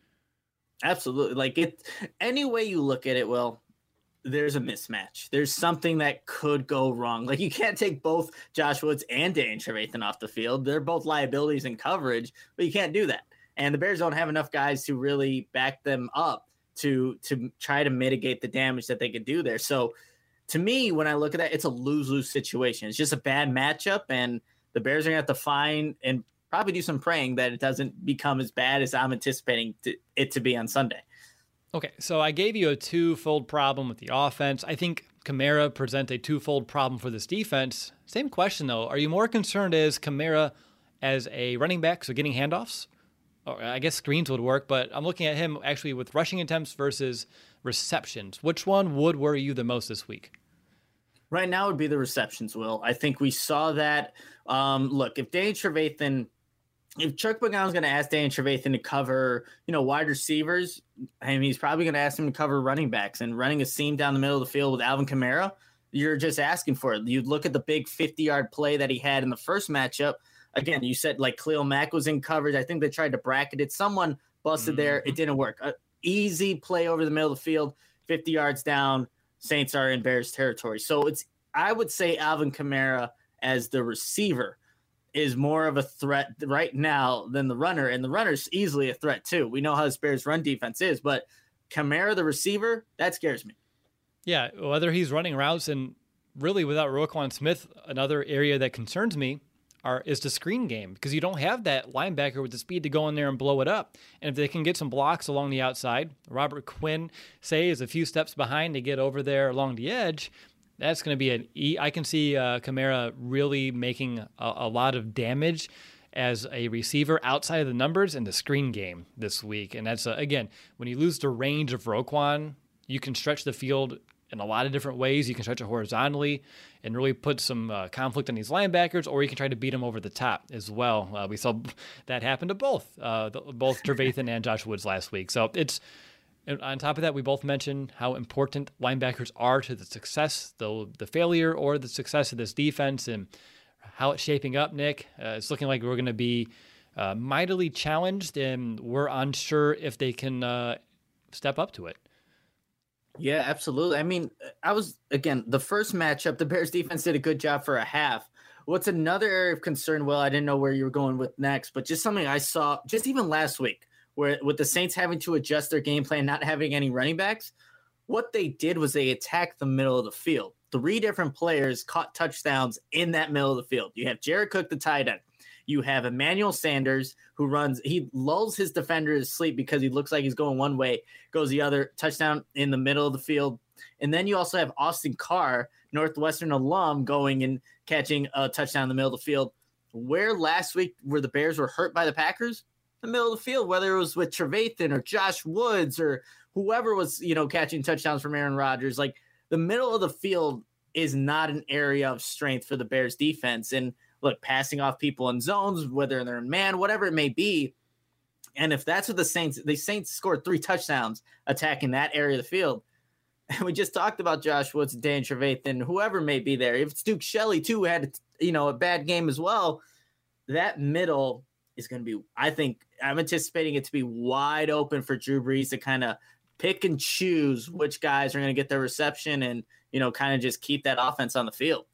Absolutely. Like it, any way you look at it, Will, there's a mismatch. There's something that could go wrong. Like you can't take both Josh Woods and Danny Trevathan off the field. They're both liabilities in coverage, but you can't do that. And the Bears don't have enough guys to really back them up to to try to mitigate the damage that they could do there. So to me, when I look at that, it's a lose-lose situation. It's just a bad matchup, and the Bears are going to have to find and probably do some praying that it doesn't become as bad as I'm anticipating to, it to be on Sunday. Okay, so I gave you a twofold problem with the offense. I think Kamara presents a twofold problem for this defense. Same question, though. Are you more concerned as Kamara as a running back, so getting handoffs? Or I guess screens would work, but I'm looking at him actually with rushing attempts versus receptions. Which one would worry you the most this week? Right now would be the receptions, Will. I think we saw that. Um, look, if Danny Trevathan, if Chuck Pagano's going to ask Danny Trevathan to cover, you know, wide receivers, I mean, he's probably going to ask him to cover running backs, and running a seam down the middle of the field with Alvin Kamara, you're just asking for it. You look at the big fifty-yard play that he had in the first matchup. Again, you said like Khalil Mack was in coverage. I think they tried to bracket it. Someone busted mm-hmm. there. It didn't work. A easy play over the middle of the field, fifty yards down. Saints are in Bears territory. So it's, I would say Alvin Kamara as the receiver is more of a threat right now than the runner. And the runner's easily a threat too. We know how this Bears run defense is, but Kamara, the receiver, that scares me. Yeah, whether he's running routes, and really without Roquan Smith, another area that concerns me Are, is the screen game, because you don't have that linebacker with the speed to go in there and blow it up. And if they can get some blocks along the outside, Robert Quinn, say, is a few steps behind to get over there along the edge, that's going to be an E. I can see uh, Kamara really making a, a lot of damage as a receiver outside of the numbers in the screen game this week. And that's, uh, again, when you lose the range of Roquan, you can stretch the field in a lot of different ways. You can stretch it horizontally and really put some uh, conflict on these linebackers, or you can try to beat them over the top as well. Uh, we saw that happen to both, uh, the, both Trevathan and Josh Woods last week. So it's, on top of that, we both mentioned how important linebackers are to the success, the the failure or the success of this defense, and how it's shaping up, Nick. Uh, it's looking like we're going to be uh, mightily challenged, and we're unsure if they can uh, step up to it. Yeah, absolutely. I mean, I was, again, the first matchup, the Bears defense did a good job for a half. What's another area of concern, Well, I didn't know where you were going with next, but just something I saw just even last week, where with the Saints having to adjust their game plan, not having any running backs, what they did was they attacked the middle of the field. Three different players caught touchdowns in that middle of the field. You have Jared Cook, the tight end. You have Emmanuel Sanders, who runs, he lulls his defender to sleep because he looks like he's going one way, goes the other, touchdown in the middle of the field. And then you also have Austin Carr, Northwestern alum, going and catching a touchdown in the middle of the field. Where last week, where the Bears were hurt by the Packers, the middle of the field, whether it was with Trevathan or Josh Woods or whoever was, you know, catching touchdowns from Aaron Rodgers, like the middle of the field is not an area of strength for the Bears defense. And look, passing off people in zones, whether they're in man, whatever it may be. And if that's what the Saints, the Saints scored three touchdowns attacking that area of the field. And we just talked about Josh Woods, Dan Trevathan, whoever may be there. If it's Duke Shelley too, had, you know, a bad game as well, that middle is going to be, I think, I'm anticipating it to be wide open for Drew Brees to kind of pick and choose which guys are going to get their reception and, you know, kind of just keep that offense on the field.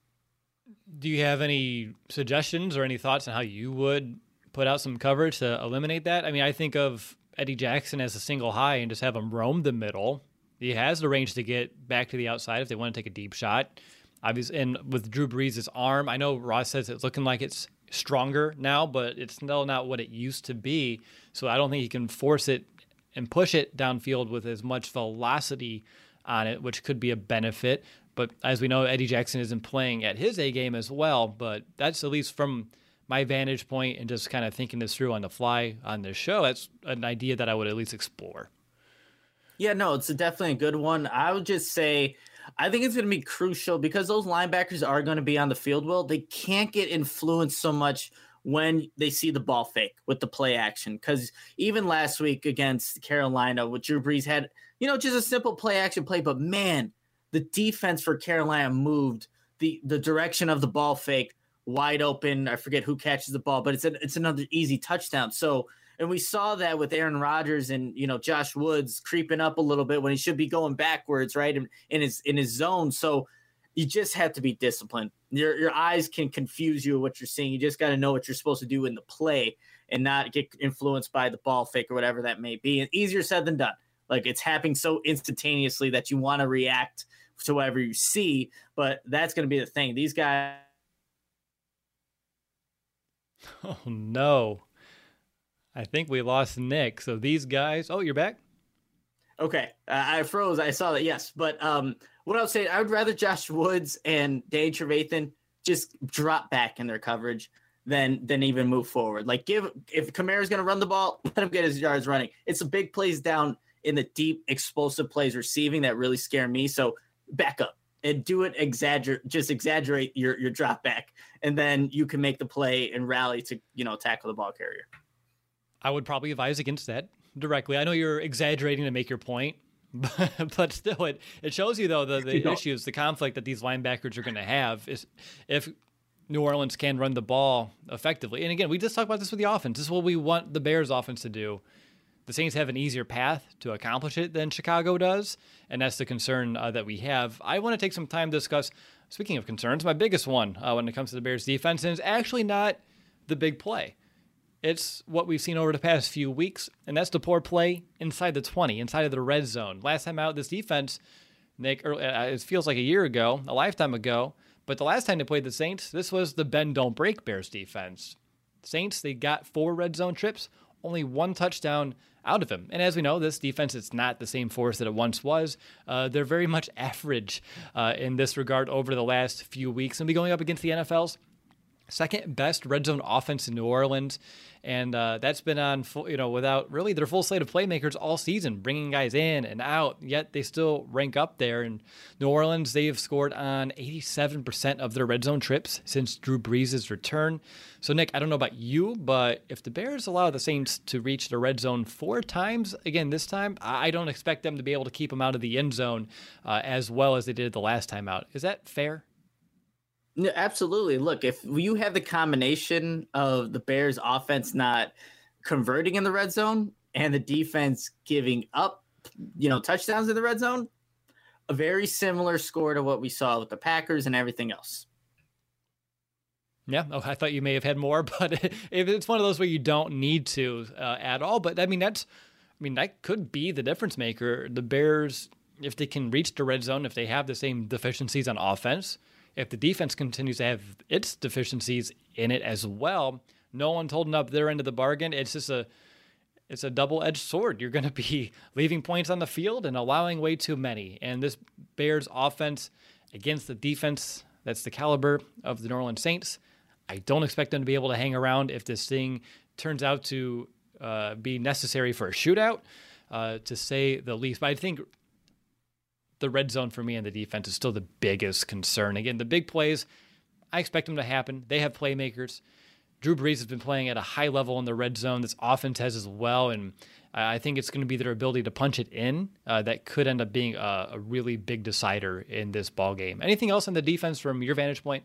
Do you have any suggestions or any thoughts on how you would put out some coverage to eliminate that? I mean, I think of Eddie Jackson as a single high and just have him roam the middle. He has the range to get back to the outside if they want to take a deep shot. Obviously, and with Drew Brees' arm, I know Ross says it's looking like it's stronger now, but it's still not what it used to be. So I don't think he can force it and push it downfield with as much velocity on it, which could be a benefit. But as we know, Eddie Jackson isn't playing at his A game as well. But that's, at least from my vantage point and just kind of thinking this through on the fly on this show, that's an idea that I would at least explore. Yeah, no, it's a definitely a good one. I would just say, I think it's going to be crucial because those linebackers are going to be on the field well. They can't get influenced so much when they see the ball fake with the play action. Because even last week against Carolina, with Drew Brees had, you know, just a simple play action play, but man, the defense for Carolina moved the the direction of the ball fake wide open. I forget who catches the ball, but it's a, it's another easy touchdown. So, and we saw that with Aaron Rodgers and, you know, Josh Woods creeping up a little bit when he should be going backwards, right, in, in his in his zone. So you just have to be disciplined. Your your eyes can confuse you what you're seeing. You just got to know what you're supposed to do in the play and not get influenced by the ball fake or whatever that may be. And easier said than done. Like, it's happening so instantaneously that you want to react to whatever you see, but that's going to be the thing. These guys. Oh, no. I think we lost Nick. So these guys. Oh, you're back? Okay. Uh, I froze. I saw that. Yes. But um, what I was saying, I would rather Josh Woods and Danny Trevathan just drop back in their coverage than than even move forward. Like, give if Kamara's going to run the ball, let him get his yards running. It's the big plays down in the deep, explosive plays receiving that really scare me. So back up and do it. Exaggerate, just exaggerate your your drop back, and then you can make the play and rally to, you know, tackle the ball carrier. I would probably advise against that directly. I know you're exaggerating to make your point, but, but still, it, it shows you, though, the, the you issues, the conflict that these linebackers are going to have is if New Orleans can run the ball effectively. And again, we just talked about this with the offense. This is what we want the Bears offense to do. The Saints have an easier path to accomplish it than Chicago does, and that's the concern uh, that we have. I want to take some time to discuss, speaking of concerns, my biggest one uh, when it comes to the Bears defense, and it's actually not the big play. It's what we've seen over the past few weeks, and that's the poor play inside the twenty, inside of the red zone. Last time out, this defense, Nick, it feels like a year ago, a lifetime ago, but the last time they played the Saints, this was the bend, don't break Bears defense. Saints, they got four red zone trips, only one touchdown out of him. And as we know, this defense, it's not the same force that it once was. Uh, they're very much average uh, in this regard over the last few weeks, and be going up against the N F L's second best red zone offense in New Orleans. And uh, that's been on, full, you know, without really their full slate of playmakers all season, bringing guys in and out, yet they still rank up there. In New Orleans, they have scored on eighty-seven percent of their red zone trips since Drew Brees' return. So, Nick, I don't know about you, but if the Bears allow the Saints to reach the red zone four times, again, this time, I don't expect them to be able to keep them out of the end zone uh, as well as they did the last time out. Is that fair? No, absolutely. Look, if you have the combination of the Bears offense not converting in the red zone and the defense giving up, you know, touchdowns in the red zone, a very similar score to what we saw with the Packers and everything else. Yeah, oh, I thought you may have had more, but if it's one of those where you don't need to uh, at all. But I mean, that's, I mean, that could be the difference maker. The Bears, if they can reach the red zone, if they have the same deficiencies on offense, if the defense continues to have its deficiencies in it as well, no one's holding up their end of the bargain. It's just a, it's a double-edged sword. You're going to be leaving points on the field and allowing way too many. And this Bears offense against the defense that's the caliber of the New Orleans Saints, I don't expect them to be able to hang around if this thing turns out to uh, be necessary for a shootout, uh, to say the least. But I think the red zone for me and the defense is still the biggest concern. Again, the big plays, I expect them to happen. They have playmakers. Drew Brees has been playing at a high level in the red zone. This offense has as well, and I think it's going to be their ability to punch it in uh, that could end up being a, a really big decider in this ball game. Anything else on the defense from your vantage point?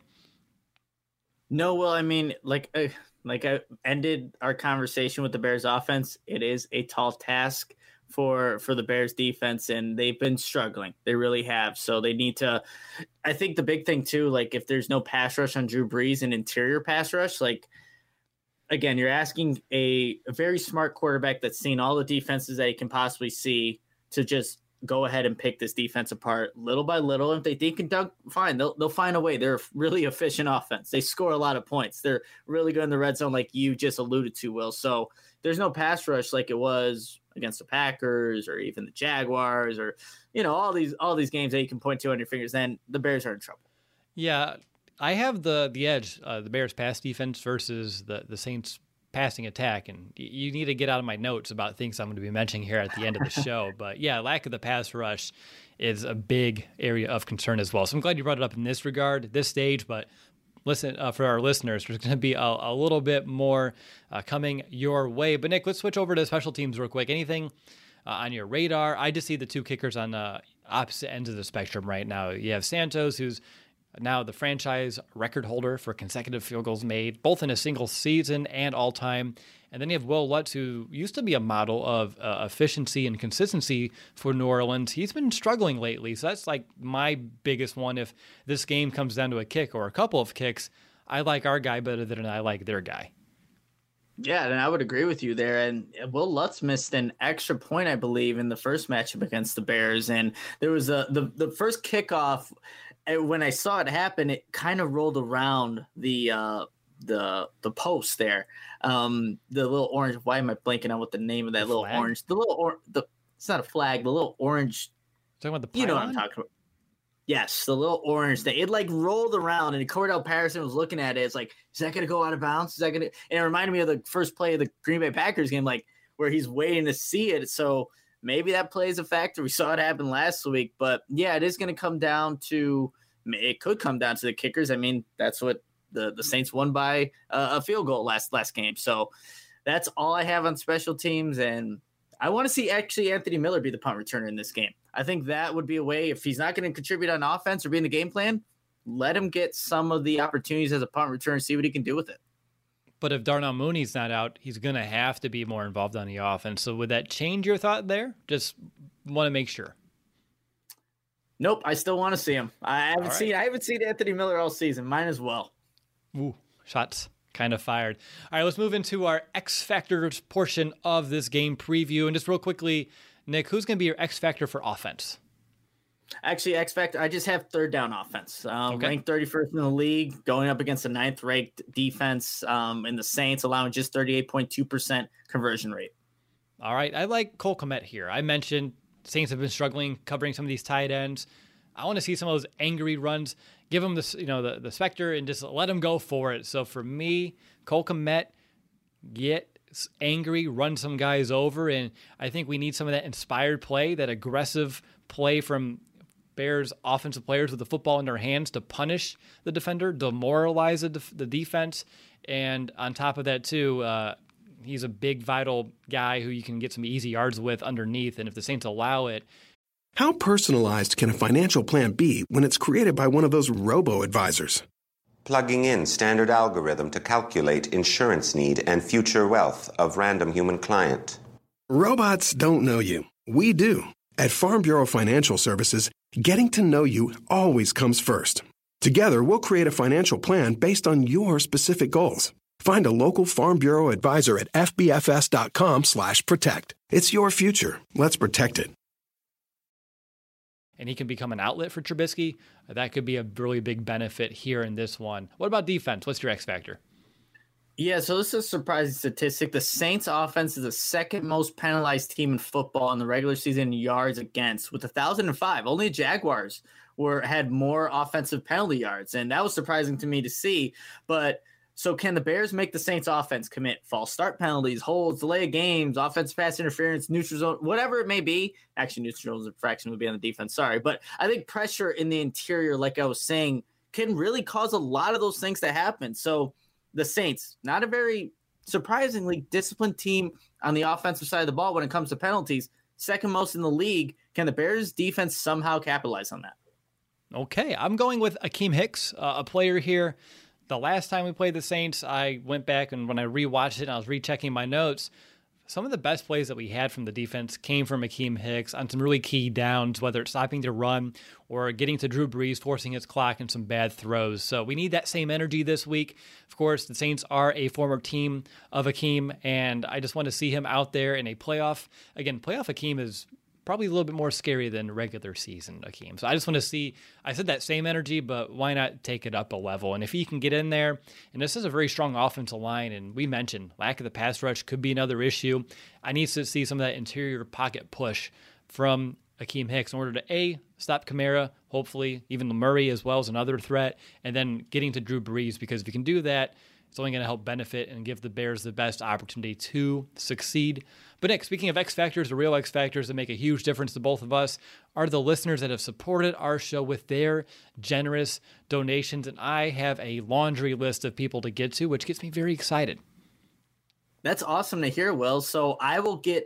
No, well, I mean, like, uh, like I ended our conversation with the Bears offense. It is a tall task for for the Bears defense, and they've been struggling. They really have. So they need to, I think the big thing too, like if there's no pass rush on Drew Brees and interior pass rush, like, again, you're asking a, a very smart quarterback that's seen all the defenses that he can possibly see to just go ahead and pick this defense apart little by little. If they think and dunk, fine, they'll they'll find a way. They're a really efficient offense. They score a lot of points. They're really good in the red zone, like you just alluded to, Will. So there's no pass rush like it was against the Packers or even the Jaguars or, you know, all these all these games that you can point to on your fingers. Then the Bears are in trouble. Yeah, I have the the edge, uh, the Bears pass defense versus the the Saints passing attack, and you need to get out of my notes about things I'm going to be mentioning here at the end of the show. But yeah, lack of the pass rush is a big area of concern as well. So I'm glad you brought it up in this regard, this stage. But listen, uh, for our listeners, there's going to be a, a little bit more uh, coming your way. But Nick, let's switch over to special teams real quick. Anything uh, on your radar? I just see the two kickers on the opposite ends of the spectrum right now. You have Santos, who's now the franchise record holder for consecutive field goals made, both in a single season and all time. And then you have Will Lutz, who used to be a model of uh, efficiency and consistency for New Orleans. He's been struggling lately, so that's like my biggest one. If this game comes down to a kick or a couple of kicks, I like our guy better than I like their guy. Yeah, and I would agree with you there. And Will Lutz missed an extra point, I believe, in the first matchup against the Bears. And there was a the, the first kickoff. When I saw it happen, it kind of rolled around the uh, the the post there. Um, the little orange. Why am I blanking on what the name of that the little flag? orange? The little or the it's not a flag. The little orange. Talking about the You know what pylon? I'm talking about. Yes, the little orange thing. It like rolled around, and Cordell Patterson was looking at it. It's like, is that going to go out of bounds? Is that going to? And it reminded me of the first play of the Green Bay Packers game, like where he's waiting to see it. So maybe that plays a factor. We saw it happen last week, but yeah, it is going to come down to. It could come down to the kickers. I mean, that's what the, the Saints won by uh, a field goal last last game. So that's all I have on special teams, and I want to see actually Anthony Miller be the punt returner in this game. I think that would be a way, if he's not going to contribute on offense or be in the game plan, let him get some of the opportunities as a punt returner and see what he can do with it. But if Darnell Mooney's not out, he's going to have to be more involved on the offense. So would that change your thought there? Just want to make sure. Nope, I still want to see him. I haven't right. seen I haven't seen Anthony Miller all season. Mine as well. Ooh, shots kind of fired. All right, let's move into our X Factors portion of this game preview. And just real quickly, Nick, who's going to be your X Factor for offense? Actually, X Factor, I just have third down offense. Um, Okay. Ranked thirty-first in the league, going up against the ninth ranked defense um, in the Saints, allowing just thirty-eight point two percent conversion rate. All right, I like Cole Kmet here. I mentioned Saints have been struggling covering some of these tight ends. I want to see some of those angry runs. Give them the you know the, the specter and just let them go for it. So for me, Cole Kmet, get angry, run some guys over, and I think we need some of that inspired play, that aggressive play from Bears offensive players with the football in their hands to punish the defender, demoralize the, def- the defense, and on top of that too, uh, he's a big, vital guy who you can get some easy yards with underneath, and if the Saints allow it. How personalized can a financial plan be when it's created by one of those robo-advisors? Plugging in standard algorithm to calculate insurance need and future wealth of random human client. Robots don't know you. We do. At Farm Bureau Financial Services, getting to know you always comes first. Together, we'll create a financial plan based on your specific goals. Find a local Farm Bureau advisor at fbfs.com slash protect. It's your future. Let's protect it. And he can become an outlet for Trubisky. That could be a really big benefit here in this one. What about defense? What's your X factor? Yeah, so this is a surprising statistic. The Saints offense is the second most penalized team in football in the regular season in yards against, with one thousand five. Only the Jaguars were had more offensive penalty yards, and that was surprising to me to see. But so can the Bears make the Saints offense commit false start penalties, holds, delay of games, offensive pass interference, neutral zone, whatever it may be? Actually, neutral zone infraction would be on the defense. Sorry. But I think pressure in the interior, like I was saying, can really cause a lot of those things to happen. So the Saints, not a very surprisingly disciplined team on the offensive side of the ball when it comes to penalties, second most in the league. Can the Bears defense somehow capitalize on that? Okay, I'm going with Akeem Hicks, uh, a player here. The last time we played the Saints, I went back and when I rewatched it and I was rechecking my notes, some of the best plays that we had from the defense came from Akeem Hicks on some really key downs, whether it's stopping the run or getting to Drew Brees, forcing his clock and some bad throws. So we need that same energy this week. Of course, the Saints are a former team of Akeem, and I just want to see him out there in a playoff. Again, playoff Akeem is probably a little bit more scary than regular season Akeem. So I just want to see, I said that same energy, but why not take it up a level? And if he can get in there, and this is a very strong offensive line, and we mentioned lack of the pass rush could be another issue. I need to see some of that interior pocket push from Akeem Hicks in order to A, stop Kamara, hopefully even Murray as well as another threat, and then getting to Drew Brees, because if you can do that, it's only going to help benefit and give the Bears the best opportunity to succeed. But Nick, speaking of X Factors, the real X Factors that make a huge difference to both of us are the listeners that have supported our show with their generous donations. And I have a laundry list of people to get to, which gets me very excited. That's awesome to hear, Will. So I will get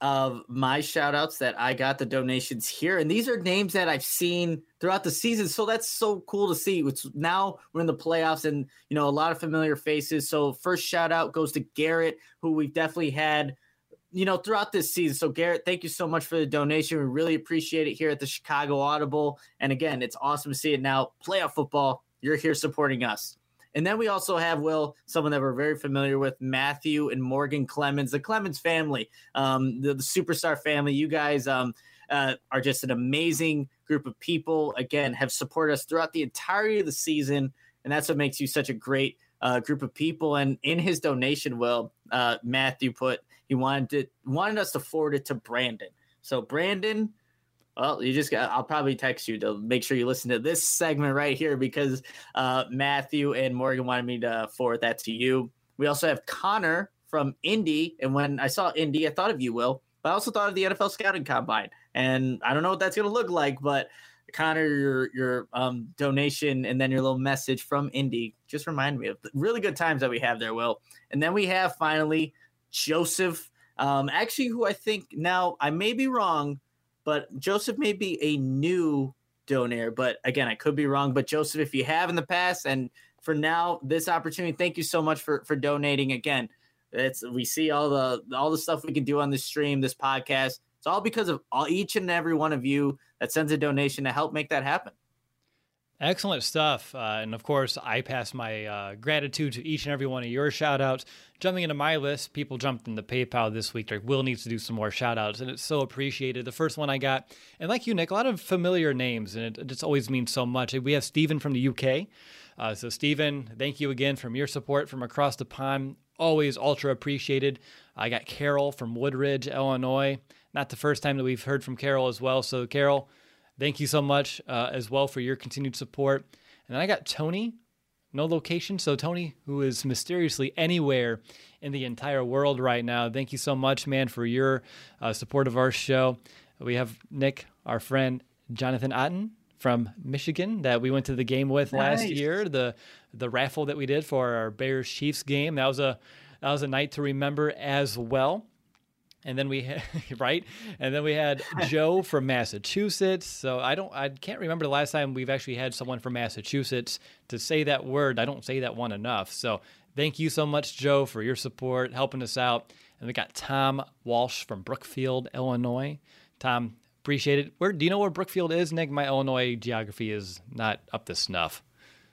of my shout outs that I got the donations here. And these are names that I've seen throughout the season. So that's so cool to see. It's now we're in the playoffs and, you know, a lot of familiar faces. So first shout out goes to Garrett, who we've definitely had, you know, throughout this season. So Garrett, thank you so much for the donation. We really appreciate it here at the Chicago Audible. And again, it's awesome to see it now. Playoff football, you're here supporting us. And then we also have, Will, someone that we're very familiar with, Matthew and Morgan Clemens, the Clemens family, um, the, the superstar family. You guys um, uh, are just an amazing group of people. Again, have supported us throughout the entirety of the season. And that's what makes you such a great uh, group of people. And in his donation, Will, uh, Matthew put, he wanted to, wanted us to forward it to Brandon. So Brandon, well, you just got, I'll probably text you to make sure you listen to this segment right here because uh, Matthew and Morgan wanted me to forward that to you. We also have Connor from Indy. And when I saw Indy, I thought of you, Will, but I also thought of the N F L Scouting Combine. And I don't know what that's going to look like, but Connor, your, your um, donation and then your little message from Indy just remind me of the really good times that we have there, Will. And then we have finally Joseph, um, actually, who I think now I may be wrong, but Joseph may be a new donor, but again, I could be wrong. But Joseph, if you have in the past, and for now, this opportunity, thank you so much for, for donating. Again, it's we see all the all the stuff we can do on this stream, this podcast. It's all because of all, each and every one of you that sends a donation to help make that happen. Excellent stuff. Uh, and of course, I pass my uh, gratitude to each and every one of your shout outs. Jumping into my list, people jumped into PayPal this week. Like, Will needs to do some more shout outs, and it's so appreciated. The first one I got, and like you, Nick, a lot of familiar names, and it, it just always means so much. We have Stephen from the U K. Uh, so, Stephen, thank you again from your support from across the pond. Always ultra appreciated. I got Carol from Woodridge, Illinois. Not the first time that we've heard from Carol as well. So, Carol, thank you so much uh, as well for your continued support. And then I got Tony, no location. So Tony, who is mysteriously anywhere in the entire world right now, thank you so much, man, for your uh, support of our show. We have Nick, our friend, Jonathan Otten from Michigan that we went to the game with Nice. last year, the the raffle that we did for our Bears-Chiefs game. That was a that was a night to remember as well. And then we had, right? And then we had Joe from Massachusetts. So I don't, I can't remember the last time we've actually had someone from Massachusetts to say that word. I don't say that one enough. So thank you so much, Joe, for your support, helping us out. And we got Tom Walsh from Brookfield, Illinois. Tom, appreciate it. Where do you know where Brookfield is, Nick? My Illinois geography is not up to snuff.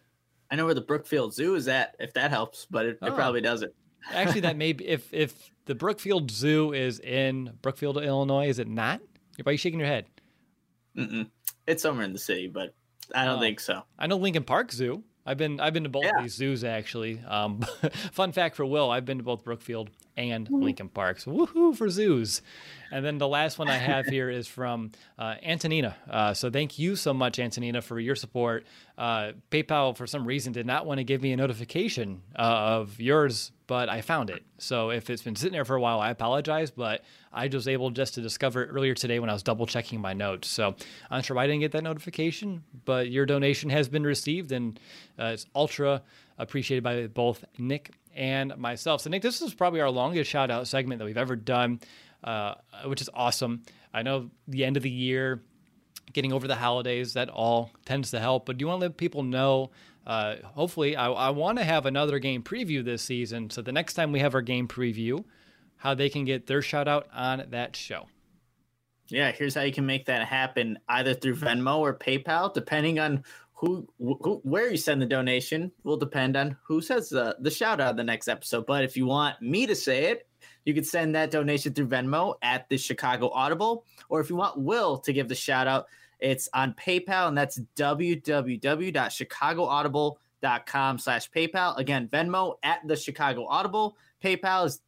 I know where the Brookfield Zoo is at, if that helps, but it, Oh. it probably doesn't. Actually, that may be, if if the Brookfield Zoo is in Brookfield, Illinois, is it not? Why are you shaking your head? Mm-mm. It's somewhere in the city, but I don't Oh. think so. I know Lincoln Park Zoo. I've been I've been to both Yeah. of these zoos actually. Um, fun fact for Will, I've been to both Brookfield and Lincoln Park. So woohoo for zoos. And then the last one I have here is from uh, Antonina. Uh, so thank you so much, Antonina, for your support. Uh, PayPal, for some reason, did not want to give me a notification uh, of yours, but I found it. So if it's been sitting there for a while, I apologize, but I was able just to discover it earlier today when I was double checking my notes. So I'm not sure why I didn't get that notification, but your donation has been received, and uh, it's ultra appreciated by both Nick and myself. So Nick, this is probably our longest shout out segment that we've ever done, uh, which is awesome. I know the end of the year, getting over the holidays, that all tends to help, but do you want to let people know, uh, hopefully I, I want to have another game preview this season. So the next time we have our game preview, how they can get their shout out on that show. Yeah, here's how you can make that happen, either through Venmo or PayPal, depending on who, who where you send the donation will depend on who says the, the shout out in the next episode. But if you want me to say it, you can send that donation through Venmo at the Chicago Audible. Or if you want Will to give the shout out, it's on PayPal, and that's www.chicagoaudible.com slash PayPal. Again, Venmo at the Chicago Audible. PayPal is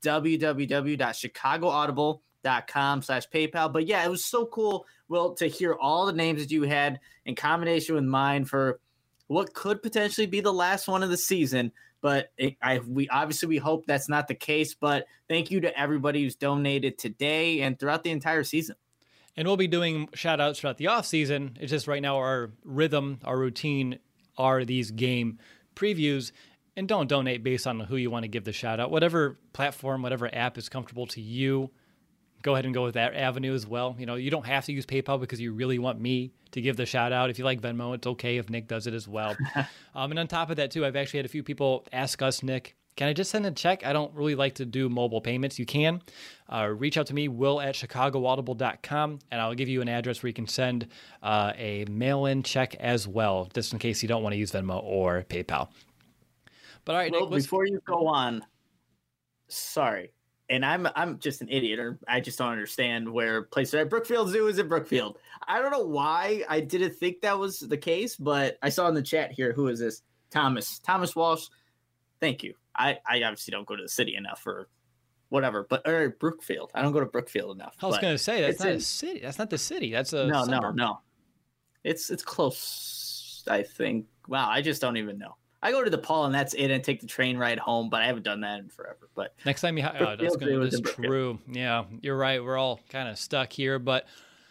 www.chicagoaudible.com slash PayPal. But yeah, it was so cool, Will, to hear all the names that you had in combination with mine for what could potentially be the last one of the season. But it, I, we obviously we hope that's not the case. But thank you to everybody who's donated today and throughout the entire season. And we'll be doing shout outs throughout the off season. It's just right now our rhythm, our routine are these game previews. And don't donate based on who you want to give the shout out. Whatever platform, whatever app is comfortable to you, go ahead and go with that avenue as well. You know, you don't have to use PayPal because you really want me to give the shout out. If you like Venmo, it's okay if Nick does it as well. um, and on top of that too, I've actually had a few people ask us, Nick, can I just send a check? I don't really like to do mobile payments. You can uh, reach out to me, will at chicago audible dot com, and I'll give you an address where you can send uh, a mail-in check as well, just in case you don't want to use Venmo or PayPal. But all right, well, Nick, before you go on, sorry, and I'm I'm just an idiot, or I just don't understand where places are. Brookfield Zoo is in Brookfield. I don't know why I didn't think that was the case, but I saw in the chat here, who is this? Thomas. Thomas Walsh. Thank you. I, I obviously don't go to the city enough or whatever, but or Brookfield. I don't go to Brookfield enough. I was going to say, that's not in, a city. That's not the city. That's a No, suburb. no, no. It's it's close, I think. Wow, I just don't even know. I go to DePaul and that's it, and take the train ride home, but I haven't done that in forever. But next time you have, oh, that's, gonna, that's true. Yeah, you're right. We're all kind of stuck here, but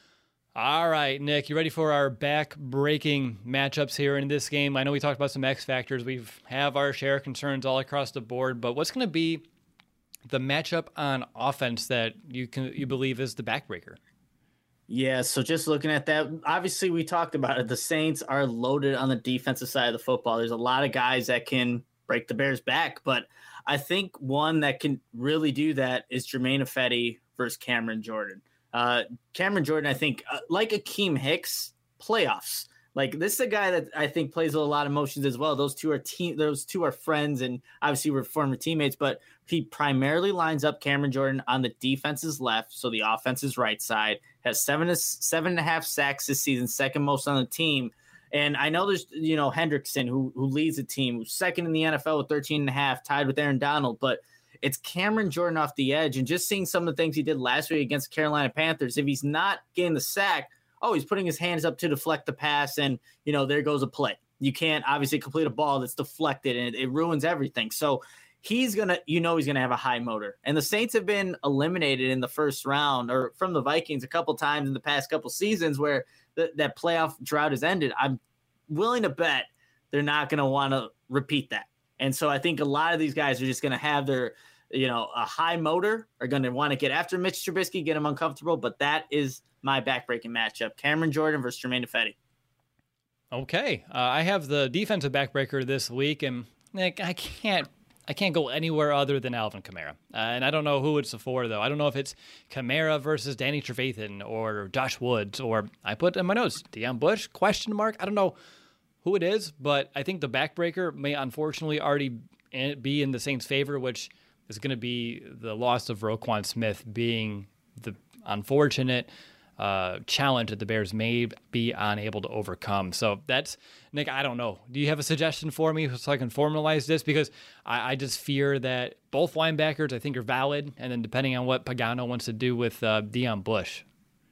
all right, Nick, you ready for our back-breaking matchups here in this game? I know we talked about some X factors. We have our share of concerns all across the board, but what's going to be the matchup on offense that you can you believe is the backbreaker? Yeah, so just looking at that, obviously we talked about it. The Saints are loaded on the defensive side of the football. There's a lot of guys that can break the Bears back, but I think one that can really do that is Jermaine Ifedi versus Cameron Jordan. Uh, Cameron Jordan, I think, uh, like Akeem Hicks, playoffs. Like, this is a guy that I think plays with a lot of emotions as well. Those two are team. Those two are friends, and obviously we're former teammates. But he primarily lines up Cameron Jordan on the defense's left, so the offense's right side. Has seven seven and a half sacks this season, second most on the team. And I know there's, you know, Hendrickson, who who leads the team, who's second in the N F L with thirteen and a half, tied with Aaron Donald, but it's Cameron Jordan off the edge, and just seeing some of the things he did last week against the Carolina Panthers, if he's not getting the sack, oh, he's putting his hands up to deflect the pass, and, you know, there goes a play. You can't obviously complete a ball that's deflected, and it, it ruins everything. So he's going to, you know, he's going to have a high motor. And the Saints have been eliminated in the first round or from the Vikings a couple times in the past couple seasons where the, that playoff drought has ended. I'm willing to bet they're not going to want to repeat that. And so I think a lot of these guys are just going to have their, you know, a high motor, are going to want to get after Mitch Trubisky, get him uncomfortable. But that is my backbreaking matchup: Cameron Jordan versus Jermaine Ifedi. Okay, uh, I have the defensive backbreaker this week, and Nick, I can't, I can't go anywhere other than Alvin Kamara. Uh, and I don't know who it's for though. I don't know if it's Kamara versus Danny Trevathan or Josh Woods, or I put in my notes Deion Bush question mark. I don't know who it is, but I think the backbreaker may unfortunately already be in the Saints' favor, which is going to be the loss of Roquan Smith being the unfortunate uh, challenge that the Bears may be unable to overcome. So that's, Nick, I don't know. Do you have a suggestion for me so I can formalize this? Because I, I just fear that both linebackers I think are valid, and then depending on what Pagano wants to do with uh, Deion Bush.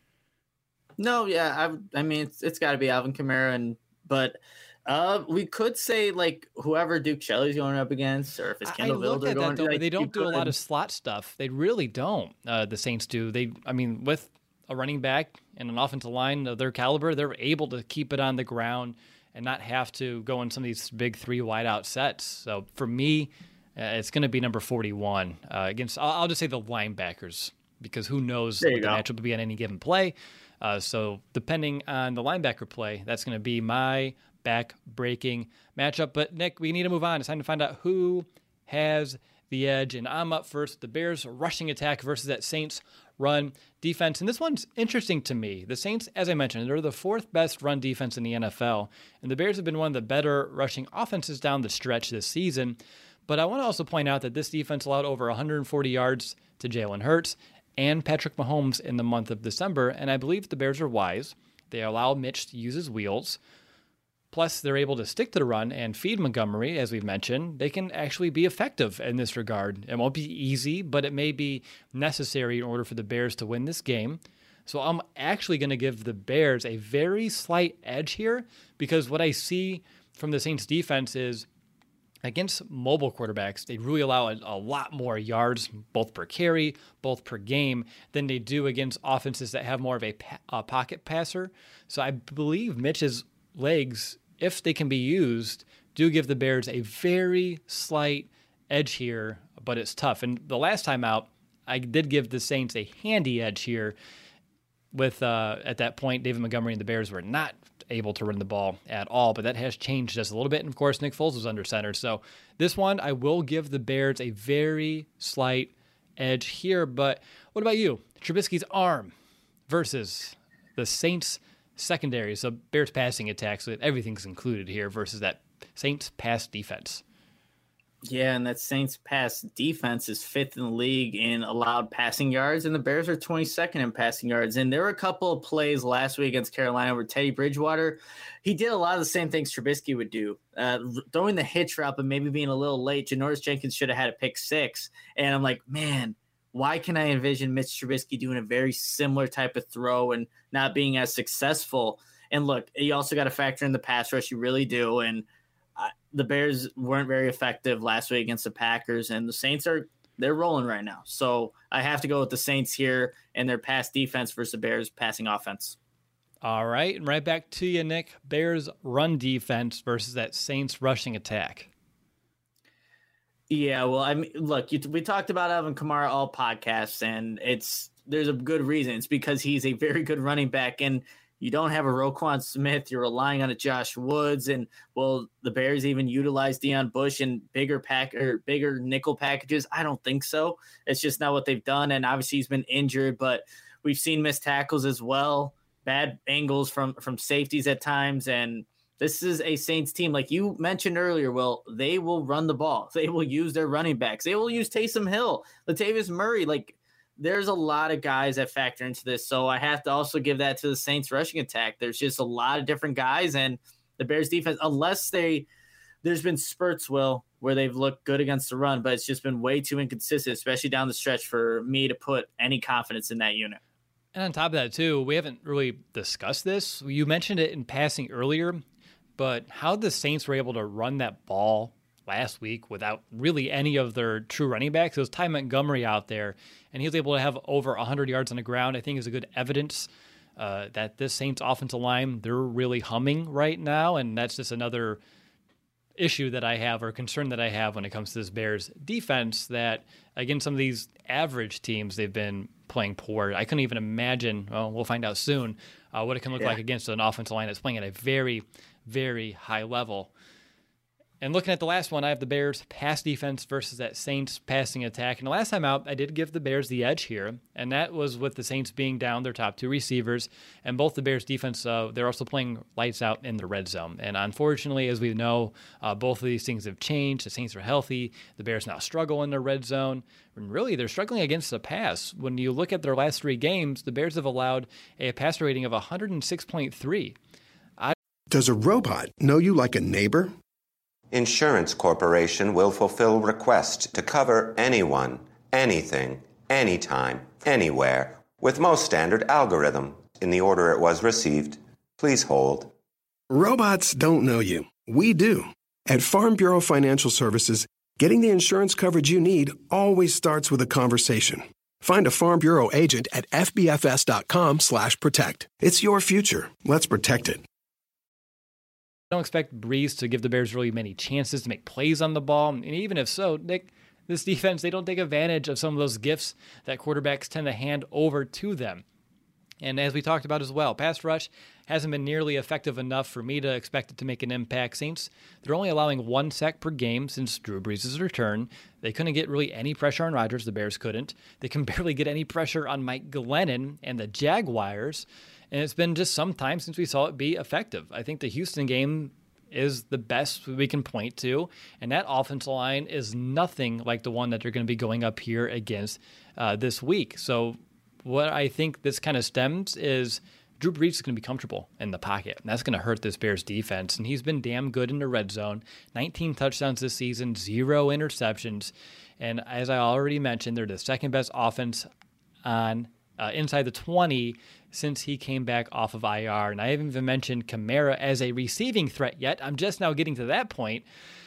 No, yeah, I, I mean, it's, it's got to be Alvin Kamara, and but uh, we could say like whoever Duke Shelley's going up against, or if it's Kendall I look Vildor at going. That, though, like, but they don't do could. a lot of slot stuff. They really don't. Uh, the Saints do. They, I mean, with a running back and an offensive line of their caliber, they're able to keep it on the ground and not have to go in some of these big three wideout sets. So for me, uh, it's going to be number forty-one uh, against. I'll, I'll just say the linebackers, because who knows what the go. matchup will be on any given play. Uh, so depending on the linebacker play, that's going to be my back-breaking matchup. But, Nick, we need to move on. It's time to find out who has the edge. And I'm up first. The Bears rushing attack versus that Saints run defense. And this one's interesting to me. The Saints, as I mentioned, they're the fourth best run defense in the N F L. And the Bears have been one of the better rushing offenses down the stretch this season. But I want to also point out that this defense allowed over one hundred forty yards to Jalen Hurts and Patrick Mahomes in the month of December. And I believe the Bears are wise. They allow Mitch to use his wheels. Plus, they're able to stick to the run and feed Montgomery, as we've mentioned. They can actually be effective in this regard. It won't be easy, but it may be necessary in order for the Bears to win this game. So I'm actually going to give the Bears a very slight edge here, because what I see from the Saints defense is against mobile quarterbacks, they really allow a, a lot more yards, both per carry, both per game, than they do against offenses that have more of a, a pocket passer. So I believe Mitch's legs, if they can be used, do give the Bears a very slight edge here, but it's tough. And the last time out, I did give the Saints a handy edge here with, uh, at that point, David Montgomery and the Bears were not able to run the ball at all, but that has changed just a little bit. And of course, Nick Foles was under center. So this one, I will give the Bears a very slight edge here. But what about you? Trubisky's arm versus the Saints secondary. So Bears passing attack, so everything's included here versus that Saints pass defense. Yeah, and that Saints pass defense is fifth in the league in allowed passing yards, and the Bears are twenty-second in passing yards. And there were a couple of plays last week against Carolina where Teddy Bridgewater, he did a lot of the same things Trubisky would do, uh, throwing the hitch route, but maybe being a little late. Janoris Jenkins should have had a pick six. And I'm like, man, why can I envision Mitch Trubisky doing a very similar type of throw and not being as successful? And look, you also got to factor in the pass rush. You really do. And uh, the Bears weren't very effective last week against the Packers, and the Saints are they're rolling right now. So I have to go with the Saints here and their pass defense versus the Bears passing offense. All right. And right back to you, Nick. Bears run defense versus that Saints rushing attack. Yeah, well, I mean, look, you, we talked about Alvin Kamara all podcasts, and it's there's a good reason. It's because he's a very good running back, and you don't have a Roquan Smith. You're relying on a Josh Woods, and well, the Bears even utilize Deion Bush in bigger pack or bigger nickel packages. I don't think so. It's just not what they've done, and obviously he's been injured, but we've seen missed tackles as well, bad angles from from safeties at times, and this is a Saints team, like you mentioned earlier, Will, they will run the ball. They will use their running backs. They will use Taysom Hill, Latavius Murray. Like, there's a lot of guys that factor into this. So I have to also give that to the Saints rushing attack. There's just a lot of different guys, and the Bears defense, unless they – there's been spurts, Will, where they've looked good against the run, but it's just been way too inconsistent, especially down the stretch for me to put any confidence in that unit. And on top of that, too, we haven't really discussed this. You mentioned it in passing earlier, but how the Saints were able to run that ball last week without really any of their true running backs. It was Ty Montgomery out there, and he was able to have over one hundred yards on the ground. I think is a good evidence uh, that this Saints offensive line, they're really humming right now, and that's just another issue that I have or concern that I have when it comes to this Bears defense, that against some of these average teams, they've been playing poor. I couldn't even imagine, well, we'll find out soon, uh, what it can look yeah. like against an offensive line that's playing at a very, very high level. And looking at the last one, I have the Bears pass defense versus that Saints passing attack. And the last time out, I did give the Bears the edge here, and that was with the Saints being down their top two receivers. And both the Bears defense, uh, they're also playing lights out in the red zone. And unfortunately, as we know, uh, both of these things have changed. The Saints are healthy. The Bears now struggle in the red zone. And really, they're struggling against the pass. When you look at their last three games, the Bears have allowed a passer rating of one hundred six point three. I- Does a robot know you like a neighbor? Insurance Corporation will fulfill requests to cover anyone, anything, anytime, anywhere, with most standard algorithm in the order it was received. Please hold. Robots don't know you. We do. At Farm Bureau Financial Services, getting the insurance coverage you need always starts with a conversation. Find a Farm Bureau agent at fbfs.com slash protect. It's your future. Let's protect it. I don't expect Breeze to give the Bears really many chances to make plays on the ball. And even if so, Nick, this defense, they don't take advantage of some of those gifts that quarterbacks tend to hand over to them. And as we talked about as well, pass rush hasn't been nearly effective enough for me to expect it to make an impact. Saints, they're only allowing one sack per game since Drew Brees' return. They couldn't get really any pressure on Rodgers. The Bears couldn't. They can barely get any pressure on Mike Glennon and the Jaguars. And it's been just some time since we saw it be effective. I think the Houston game is the best we can point to, and that offensive line is nothing like the one that they're going to be going up here against uh, this week. So what I think this kind of stems is Drew Brees is going to be comfortable in the pocket, and that's going to hurt this Bears defense. And he's been damn good in the red zone. nineteen touchdowns this season, zero interceptions. And as I already mentioned, they're the second best offense on uh, inside the twenty since he came back off of I R. And I haven't even mentioned Kamara as a receiving threat yet. I'm just now getting to that point.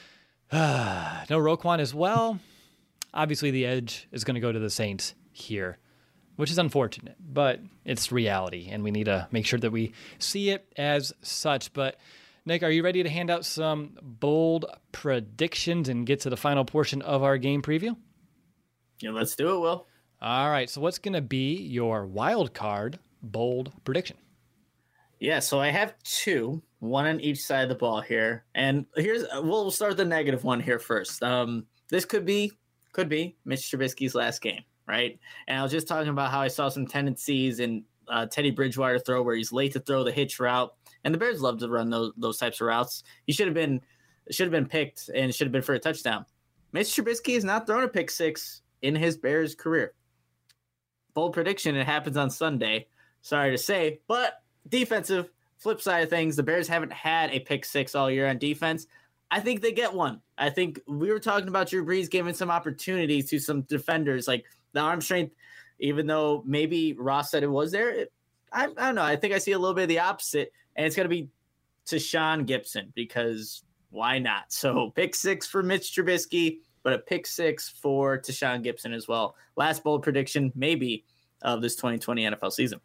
No Roquan as well. Obviously, the edge is going to go to the Saints here, which is unfortunate, but it's reality, and we need to make sure that we see it as such. But, Nick, are you ready to hand out some bold predictions and get to the final portion of our game preview? Yeah, let's do it, Will. All right. So what's going to be your wild card bold prediction? Yeah, so I have two, one on each side of the ball here. And here's we'll start with the negative one here first. Um, this could be could be Mitch Trubisky's last game, right? And I was just talking about how I saw some tendencies in uh, Teddy Bridgewater throw where he's late to throw the hitch route, and the Bears love to run those those types of routes. He should have been should have been picked and should have been for a touchdown. Mitch Trubisky has not thrown a pick six in his Bears career. Bold prediction: it happens on Sunday. Sorry to say, but defensive flip side of things, the Bears haven't had a pick six all year on defense. I think they get one. I think we were talking about Drew Brees giving some opportunities to some defenders, like the arm strength, even though maybe Ross said it was there. It, I, I don't know. I think I see a little bit of the opposite, and it's going to be Tashaun Gipson because why not? So pick six for Mitch Trubisky, but a pick six for Tashaun Gipson as well. Last bold prediction, maybe, of this twenty twenty N F L season.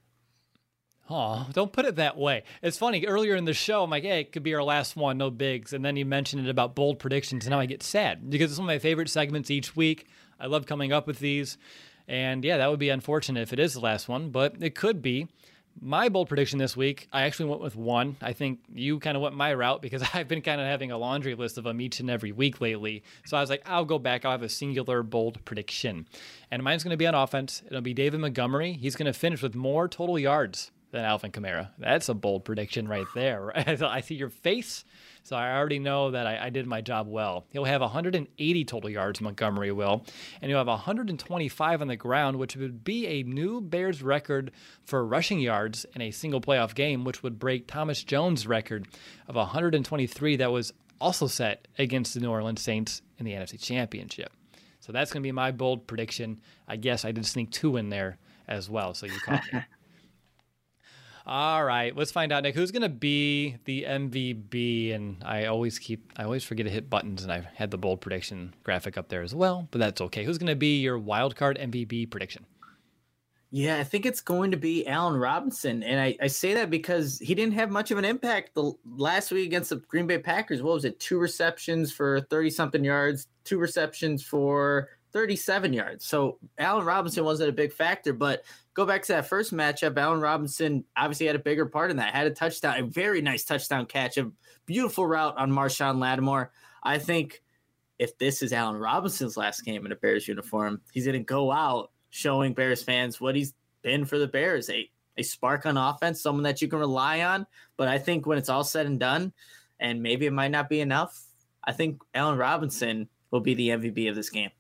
Oh, don't put it that way. It's funny. Earlier in the show, I'm like, hey, it could be our last one, no bigs. And then you mentioned it about bold predictions, and now I get sad because it's one of my favorite segments each week. I love coming up with these. And yeah, that would be unfortunate if it is the last one, but it could be. My bold prediction this week, I actually went with one. I think you kind of went my route because I've been kind of having a laundry list of them each and every week lately. So I was like, I'll go back. I'll have a singular bold prediction. And mine's going to be on offense. It'll be David Montgomery. He's going to finish with more total yards than Alvin Kamara. That's a bold prediction right there. I see your face, so I already know that I, I did my job well. He'll have one hundred eighty total yards, Montgomery will, and he'll have one hundred twenty-five on the ground, which would be a new Bears record for rushing yards in a single playoff game, which would break Thomas Jones' record of one hundred twenty-three that was also set against the New Orleans Saints in the N F C Championship. So that's going to be my bold prediction. I guess I did sneak two in there as well, so you caught me. All right, let's find out, Nick, who's going to be the M V P. And I always keep, I always forget to hit buttons, and I've had the bold prediction graphic up there as well, but that's okay. Who's going to be your wild card M V P prediction? Yeah, I think it's going to be Allen Robinson. And I, I say that because he didn't have much of an impact the last week against the Green Bay Packers. What was it? Two receptions for thirty-something yards, two receptions for thirty-seven yards. So Allen Robinson wasn't a big factor, but go back to that first matchup. Allen Robinson obviously had a bigger part in that, had a touchdown, a very nice touchdown catch, a beautiful route on Marshawn Lattimore. I think if this is Allen Robinson's last game in a Bears uniform, he's going to go out showing Bears fans what he's been for the Bears, a, a spark on offense, someone that you can rely on. But I think when it's all said and done, and maybe it might not be enough, I think Allen Robinson will be the M V P of this game.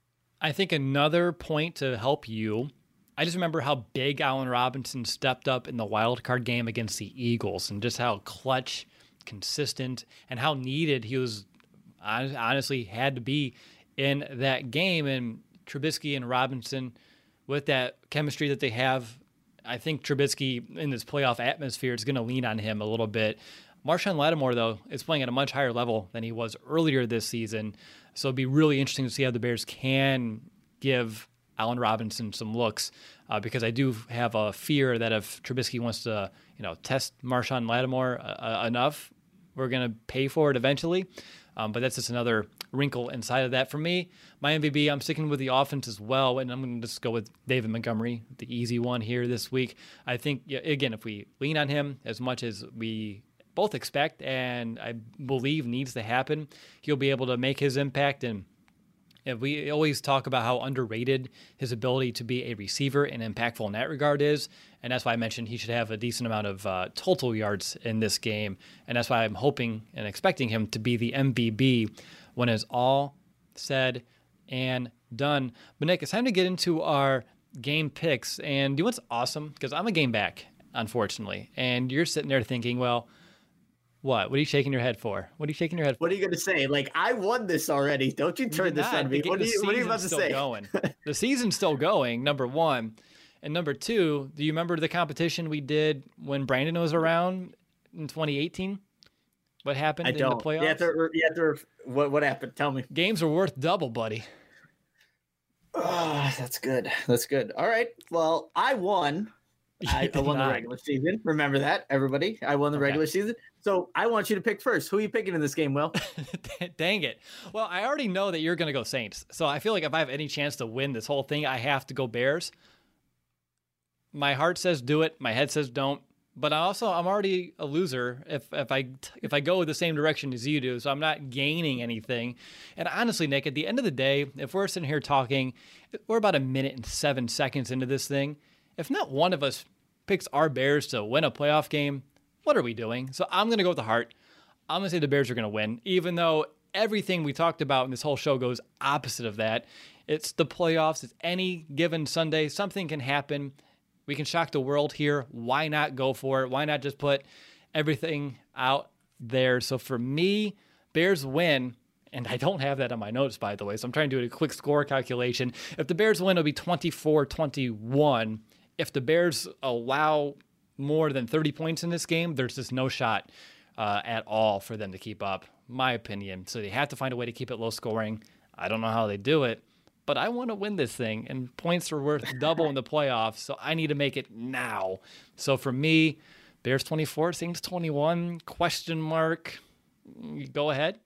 I think another point to help you, I just remember how big Allen Robinson stepped up in the wild card game against the Eagles and just how clutch, consistent, and how needed he was, honestly had to be in that game. And Trubisky and Robinson, with that chemistry that they have, I think Trubisky in this playoff atmosphere is going to lean on him a little bit. Marshawn Lattimore, though, is playing at a much higher level than he was earlier this season. So it'd be really interesting to see how the Bears can give Allen Robinson some looks, uh, because I do have a fear that if Trubisky wants to, you know, test Marshawn Lattimore uh, enough, we're going to pay for it eventually. Um, but that's just another wrinkle inside of that. For me, my M V P, I'm sticking with the offense as well, and I'm going to just go with David Montgomery, the easy one here this week. I think, again, if we lean on him as much as we both expect and I believe needs to happen, he'll be able to make his impact. And if we always talk about how underrated his ability to be a receiver and impactful in that regard is, and that's why I mentioned he should have a decent amount of uh, total yards in this game, and that's why I'm hoping and expecting him to be the M V P when it's all said and done. But Nick, it's time to get into our game picks, and you know what's awesome? Because I'm a game back, unfortunately, and you're sitting there thinking, well, what? What are you shaking your head for? What are you shaking your head for? What are you going to say? Like, I won this already. Don't you turn this on me. What are you, what are you about to say? Going. The season's still going, number one. And number two, do you remember the competition we did when Brandon was around in twenty eighteen? What happened I in don't. the playoffs? You have to, you have to, what, what happened? Tell me. Games are worth double, buddy. Oh, that's good. That's good. All right. Well, I won I, I won not. the regular season. Remember that, everybody. I won the Okay. regular season. So I want you to pick first. Who are you picking in this game, Will? Dang it. Well, I already know that you're going to go Saints. So I feel like if I have any chance to win this whole thing, I have to go Bears. My heart says do it. My head says don't. But I also, I'm already a loser if if I if I go the same direction as you do. So I'm not gaining anything. And honestly, Nick, at the end of the day, if we're sitting here talking, we're about a minute and seven seconds into this thing. If not one of us picks our Bears to win a playoff game, what are we doing? So I'm going to go with the heart. I'm going to say the Bears are going to win, even though everything we talked about in this whole show goes opposite of that. It's the playoffs. It's any given Sunday. Something can happen. We can shock the world here. Why not go for it? Why not just put everything out there? So for me, Bears win. And I don't have that on my notes, by the way. So I'm trying to do a quick score calculation. If the Bears win, it'll be twenty-four twenty-one. If the Bears allow more than thirty points in this game, there's just no shot uh, at all for them to keep up, my opinion. So they have to find a way to keep it low scoring. I don't know how they do it, but I want to win this thing, and points are worth double in the playoffs, so I need to make it now. So for me, Bears twenty-four, Saints twenty-one, question mark. Go ahead.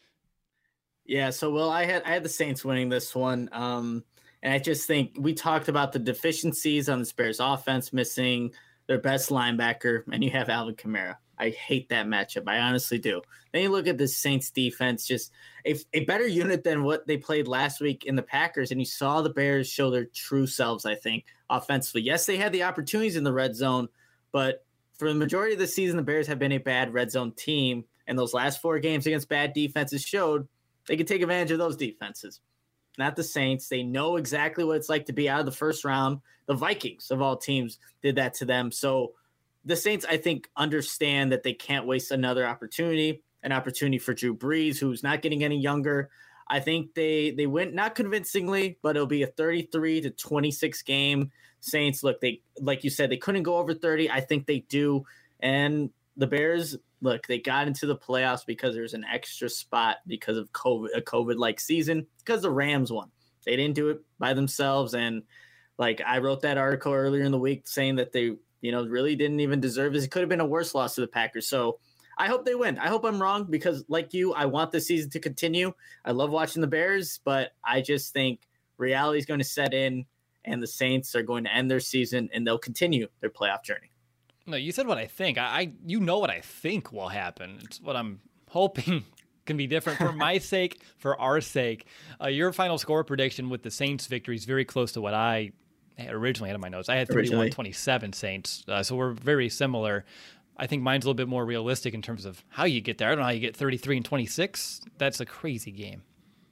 Yeah, so well, I had I had the Saints winning this one, um, and I just think we talked about the deficiencies on the Bears offense, missing their best linebacker, and you have Alvin Kamara. I hate that matchup. I honestly do. Then you look at the Saints defense, just a, a better unit than what they played last week in the Packers, and you saw the Bears show their true selves, I think, offensively. Yes, they had the opportunities in the red zone, but for the majority of the season, the Bears have been a bad red zone team, and those last four games against bad defenses showed they could take advantage of those defenses. Not the Saints. They know exactly what it's like to be out of the first round. The Vikings, of all teams, did that to them. So the Saints, I think, understand that they can't waste another opportunity, an opportunity for Drew Brees, who's not getting any younger. I think they they went not convincingly, but it'll be a thirty-three to twenty-six game. Saints, look, they like you said, they couldn't go over thirty. I think they do. And the Bears, look, they got into the playoffs because there's an extra spot because of COVID, a COVID-like season, because the Rams won. They didn't do it by themselves. And like I wrote that article earlier in the week saying that they, you know, really didn't even deserve this. It could have been a worse loss to the Packers. So I hope they win. I hope I'm wrong because like you, I want this season to continue. I love watching the Bears, but I just think reality is going to set in and the Saints are going to end their season and they'll continue their playoff journey. No, you said what I think. I, I you know what I think will happen. It's what I'm hoping can be different for my sake, for our sake. Uh, your final score prediction with the Saints victory is very close to what I originally had in my notes. I had thirty-one twenty-seven Saints, uh, so we're very similar. I think mine's a little bit more realistic in terms of how you get there. I don't know how you get thirty-three and twenty-six. That's a crazy game.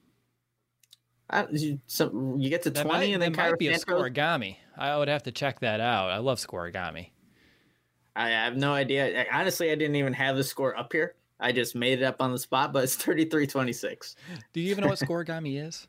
Uh, you, so you get to that twenty might, and then that might be a Santos? scoregami. I would have to check that out. I love scoregami. I have no idea. Honestly, I didn't even have the score up here. I just made it up on the spot, but it's thirty-three twenty-six. Do you even know what scoregami is?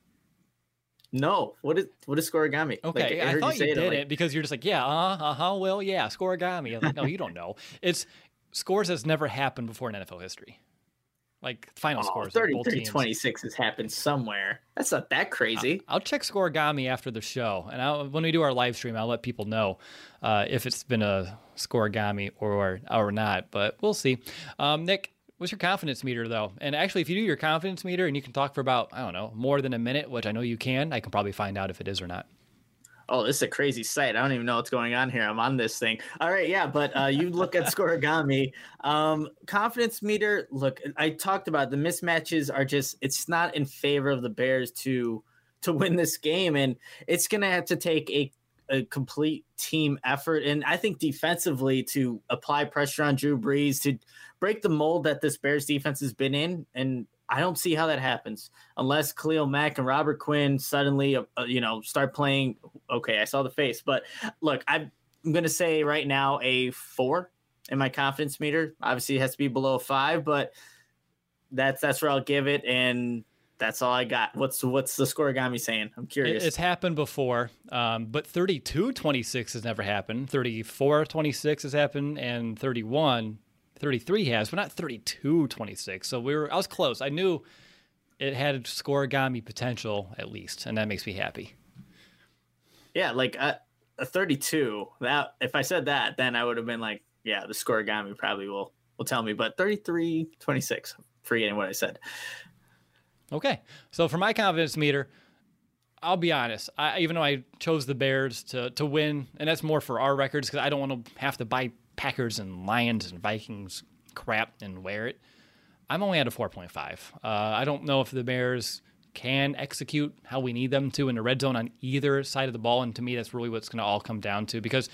No. What is what is scoregami? Okay, like, I, I thought you, you did it, like... it because you're just like, yeah, uh-huh, uh-huh, well, yeah, scoregami. I'm like, no, you don't know. It's scores that's never happened before in N F L history. Like final oh, scores. thirty-three twenty-six has happened somewhere. That's not that crazy. I'll, I'll check scoregami after the show. And I'll, when we do our live stream, I'll let people know uh, if it's been a scoregami or, or not. But we'll see. Um, Nick, what's your confidence meter, though? And actually, if you do your confidence meter and you can talk for about, I don't know, more than a minute, which I know you can, I can probably find out if it is or not. Oh, this is a crazy site. I don't even know what's going on here. I'm on this thing. All right, yeah, but uh, you look at scoregami. Um, confidence meter, look, I talked about the mismatches are just, it's not in favor of the Bears to to win this game, and it's going to have to take a, a complete team effort, and I think defensively to apply pressure on Drew Brees, to break the mold that this Bears defense has been in, and I don't see how that happens unless Khalil Mack and Robert Quinn suddenly, uh, you know, start playing. Okay, I saw the face, but look, I'm going to say right now a four in my confidence meter. Obviously, it has to be below five, but that's that's where I'll give it, and that's all I got. What's what's the scoregami saying? I'm curious. It's happened before, um, but thirty-two twenty-six has never happened. thirty-four twenty-six has happened, and thirty-one. thirty-three has, but not thirty-two twenty-six. So we were, I was close. I knew it had scoregami potential at least, and that makes me happy. Yeah, like uh, a thirty-two. That if I said that, then I would have been like, yeah, the scoregami probably will will tell me. But thirty-three twenty-six, forgetting what I said. Okay, so for my confidence meter, I'll be honest. I, even though I chose the Bears to to win, and that's more for our records because I don't want to have to buy Packers and Lions and Vikings crap and wear it. I'm only at a four point five. Uh, I don't know if the Bears can execute how we need them to in the red zone on either side of the ball, and to me, that's really what's going to all come down to. Because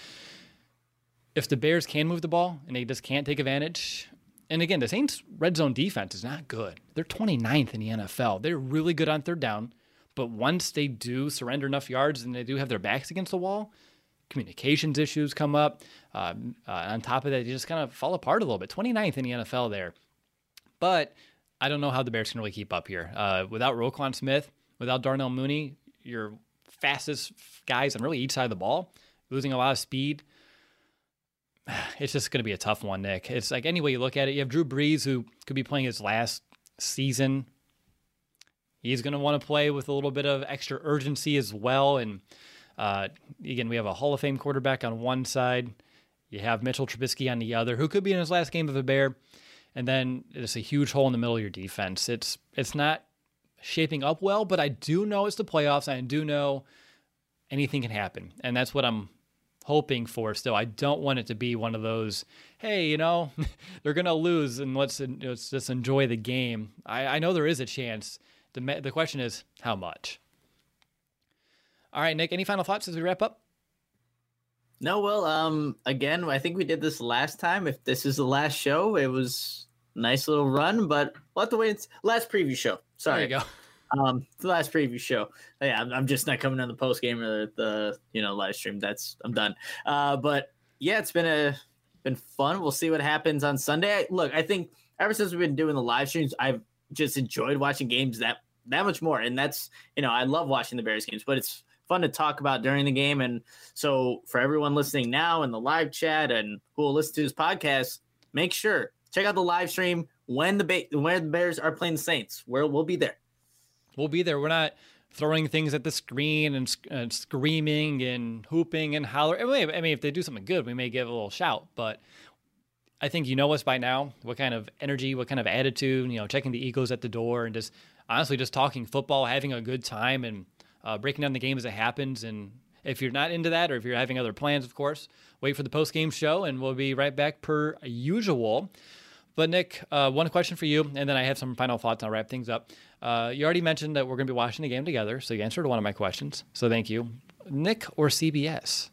if the Bears can move the ball and they just can't take advantage, and again, the Saints' red zone defense is not good. They're twenty-ninth in the N F L. They're really good on third down, but once they do surrender enough yards and they do have their backs against the wall, communications issues come up. Um, uh, on top of that, they just kind of fall apart a little bit. twenty-ninth in the N F L there. But I don't know how the Bears can really keep up here. Uh, without Roquan Smith, without Darnell Mooney, your fastest guys on really each side of the ball, losing a lot of speed, it's just going to be a tough one, Nick. It's like any way you look at it, you have Drew Brees, who could be playing his last season. He's going to want to play with a little bit of extra urgency as well. And uh, again, we have a Hall of Fame quarterback on one side. You have Mitchell Trubisky on the other, who could be in his last game of a Bear. And then it's a huge hole in the middle of your defense. It's it's not shaping up well, but I do know it's the playoffs. I do know anything can happen. And that's what I'm hoping for still. I don't want it to be one of those, hey, you know, they're going to lose and let's, let's just enjoy the game. I, I know there is a chance. The, the question is, how much? All right, Nick, any final thoughts as we wrap up? No, well, um, again, I think we did this last time. If this is the last show, it was a nice little run, but we'll have to wait. It's last preview show. Sorry. There you go. Um, the last preview show. Yeah, I'm, I'm just not coming on the post game or the, the you know live stream. That's I'm done. Uh, but yeah, it's been a been fun. We'll see what happens on Sunday. Look, I think ever since we've been doing the live streams, I've just enjoyed watching games that that much more. And that's you know I love watching the Bears games, but it's fun to talk about during the game. And so for everyone listening now in the live chat and who will listen to this podcast, make sure check out the live stream when the ba- when the Bears are playing the Saints, where we'll be there. We'll be there. We're not throwing things at the screen and, and screaming and hooping and hollering. I mean, if they do something good, we may give a little shout, but I think you know us by now, what kind of energy, what kind of attitude, you know, checking the egos at the door and just honestly just talking football, having a good time and uh, breaking down the game as it happens. And if you're not into that or if you're having other plans, of course, wait for the post-game show and we'll be right back per usual. But Nick, uh, one question for you, and then I have some final thoughts. I'll wrap things up. Uh, you already mentioned that we're going to be watching the game together, so you answered one of my questions. So thank you. Nick or C B S?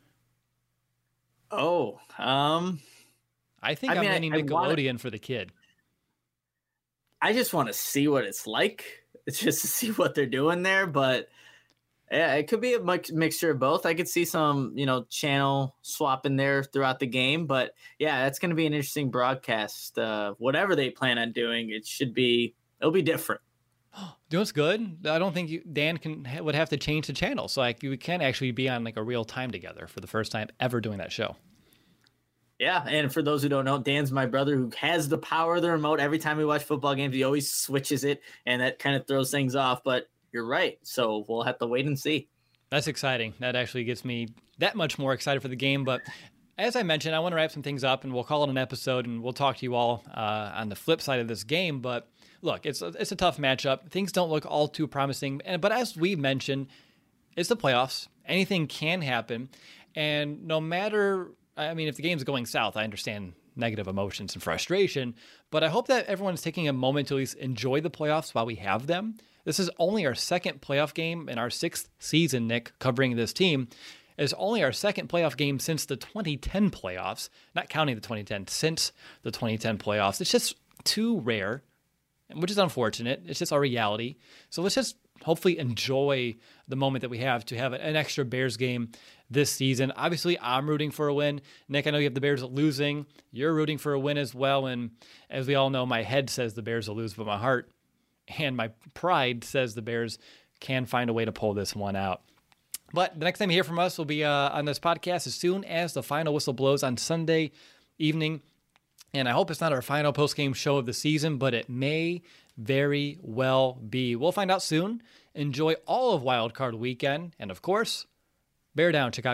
Oh, um, I think I I'm mean, leaning I, I Nickelodeon wanna, for the kid. I just want to see what it's like. It's just to see what they're doing there, but yeah, it could be a mix, mixture of both. I could see some, you know, channel swap in there throughout the game, but yeah, that's going to be an interesting broadcast. Uh, whatever they plan on doing, it should be, it'll be different. You know what's good? I don't think you, Dan can would have to change the channel, so like we can actually be on like a real time together for the first time ever doing that show. Yeah, and for those who don't know, Dan's my brother who has the power of the remote. Every time we watch football games, he always switches it, and that kind of throws things off. But you're right, so we'll have to wait and see. That's exciting. That actually gets me that much more excited for the game. But as I mentioned, I want to wrap some things up, and we'll call it an episode, and we'll talk to you all uh, on the flip side of this game. But look, it's a, it's a tough matchup. Things don't look all too promising. And but as we mentioned, it's the playoffs. Anything can happen. And no matter, I mean, if the game's going south, I understand negative emotions and frustration. But I hope that everyone's taking a moment to at least enjoy the playoffs while we have them. This is only our second playoff game in our sixth season, Nick, covering this team. It's only our second playoff game since the twenty ten playoffs, not counting the twenty ten, since the twenty ten playoffs. It's just too rare, which is unfortunate. It's just our reality. So let's just hopefully enjoy the moment that we have to have an extra Bears game this season. Obviously, I'm rooting for a win. Nick, I know you have the Bears losing. You're rooting for a win as well. And as we all know, my head says the Bears will lose, but my heart and my pride says the Bears can find a way to pull this one out. But the next time you hear from us will be uh, on this podcast as soon as the final whistle blows on Sunday evening. And I hope it's not our final post-game show of the season, but it may very well be. We'll find out soon. Enjoy all of Wild Card Weekend. And of course, bear down, Chicago.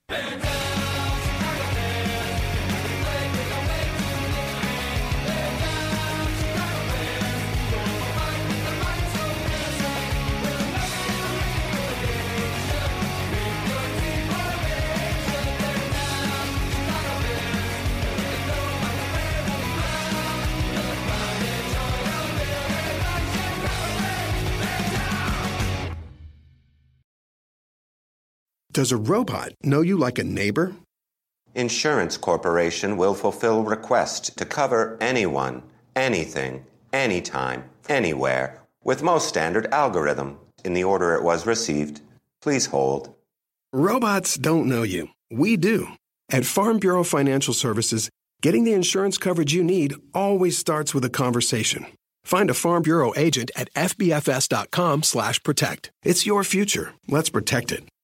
Does a robot know you like a neighbor? Insurance Corporation will fulfill request to cover anyone, anything, anytime, anywhere, with most standard algorithm in the order it was received. Please hold. Robots don't know you. We do. At Farm Bureau Financial Services, getting the insurance coverage you need always starts with a conversation. Find a Farm Bureau agent at F B F S dot com slash protect. It's your future. Let's protect it.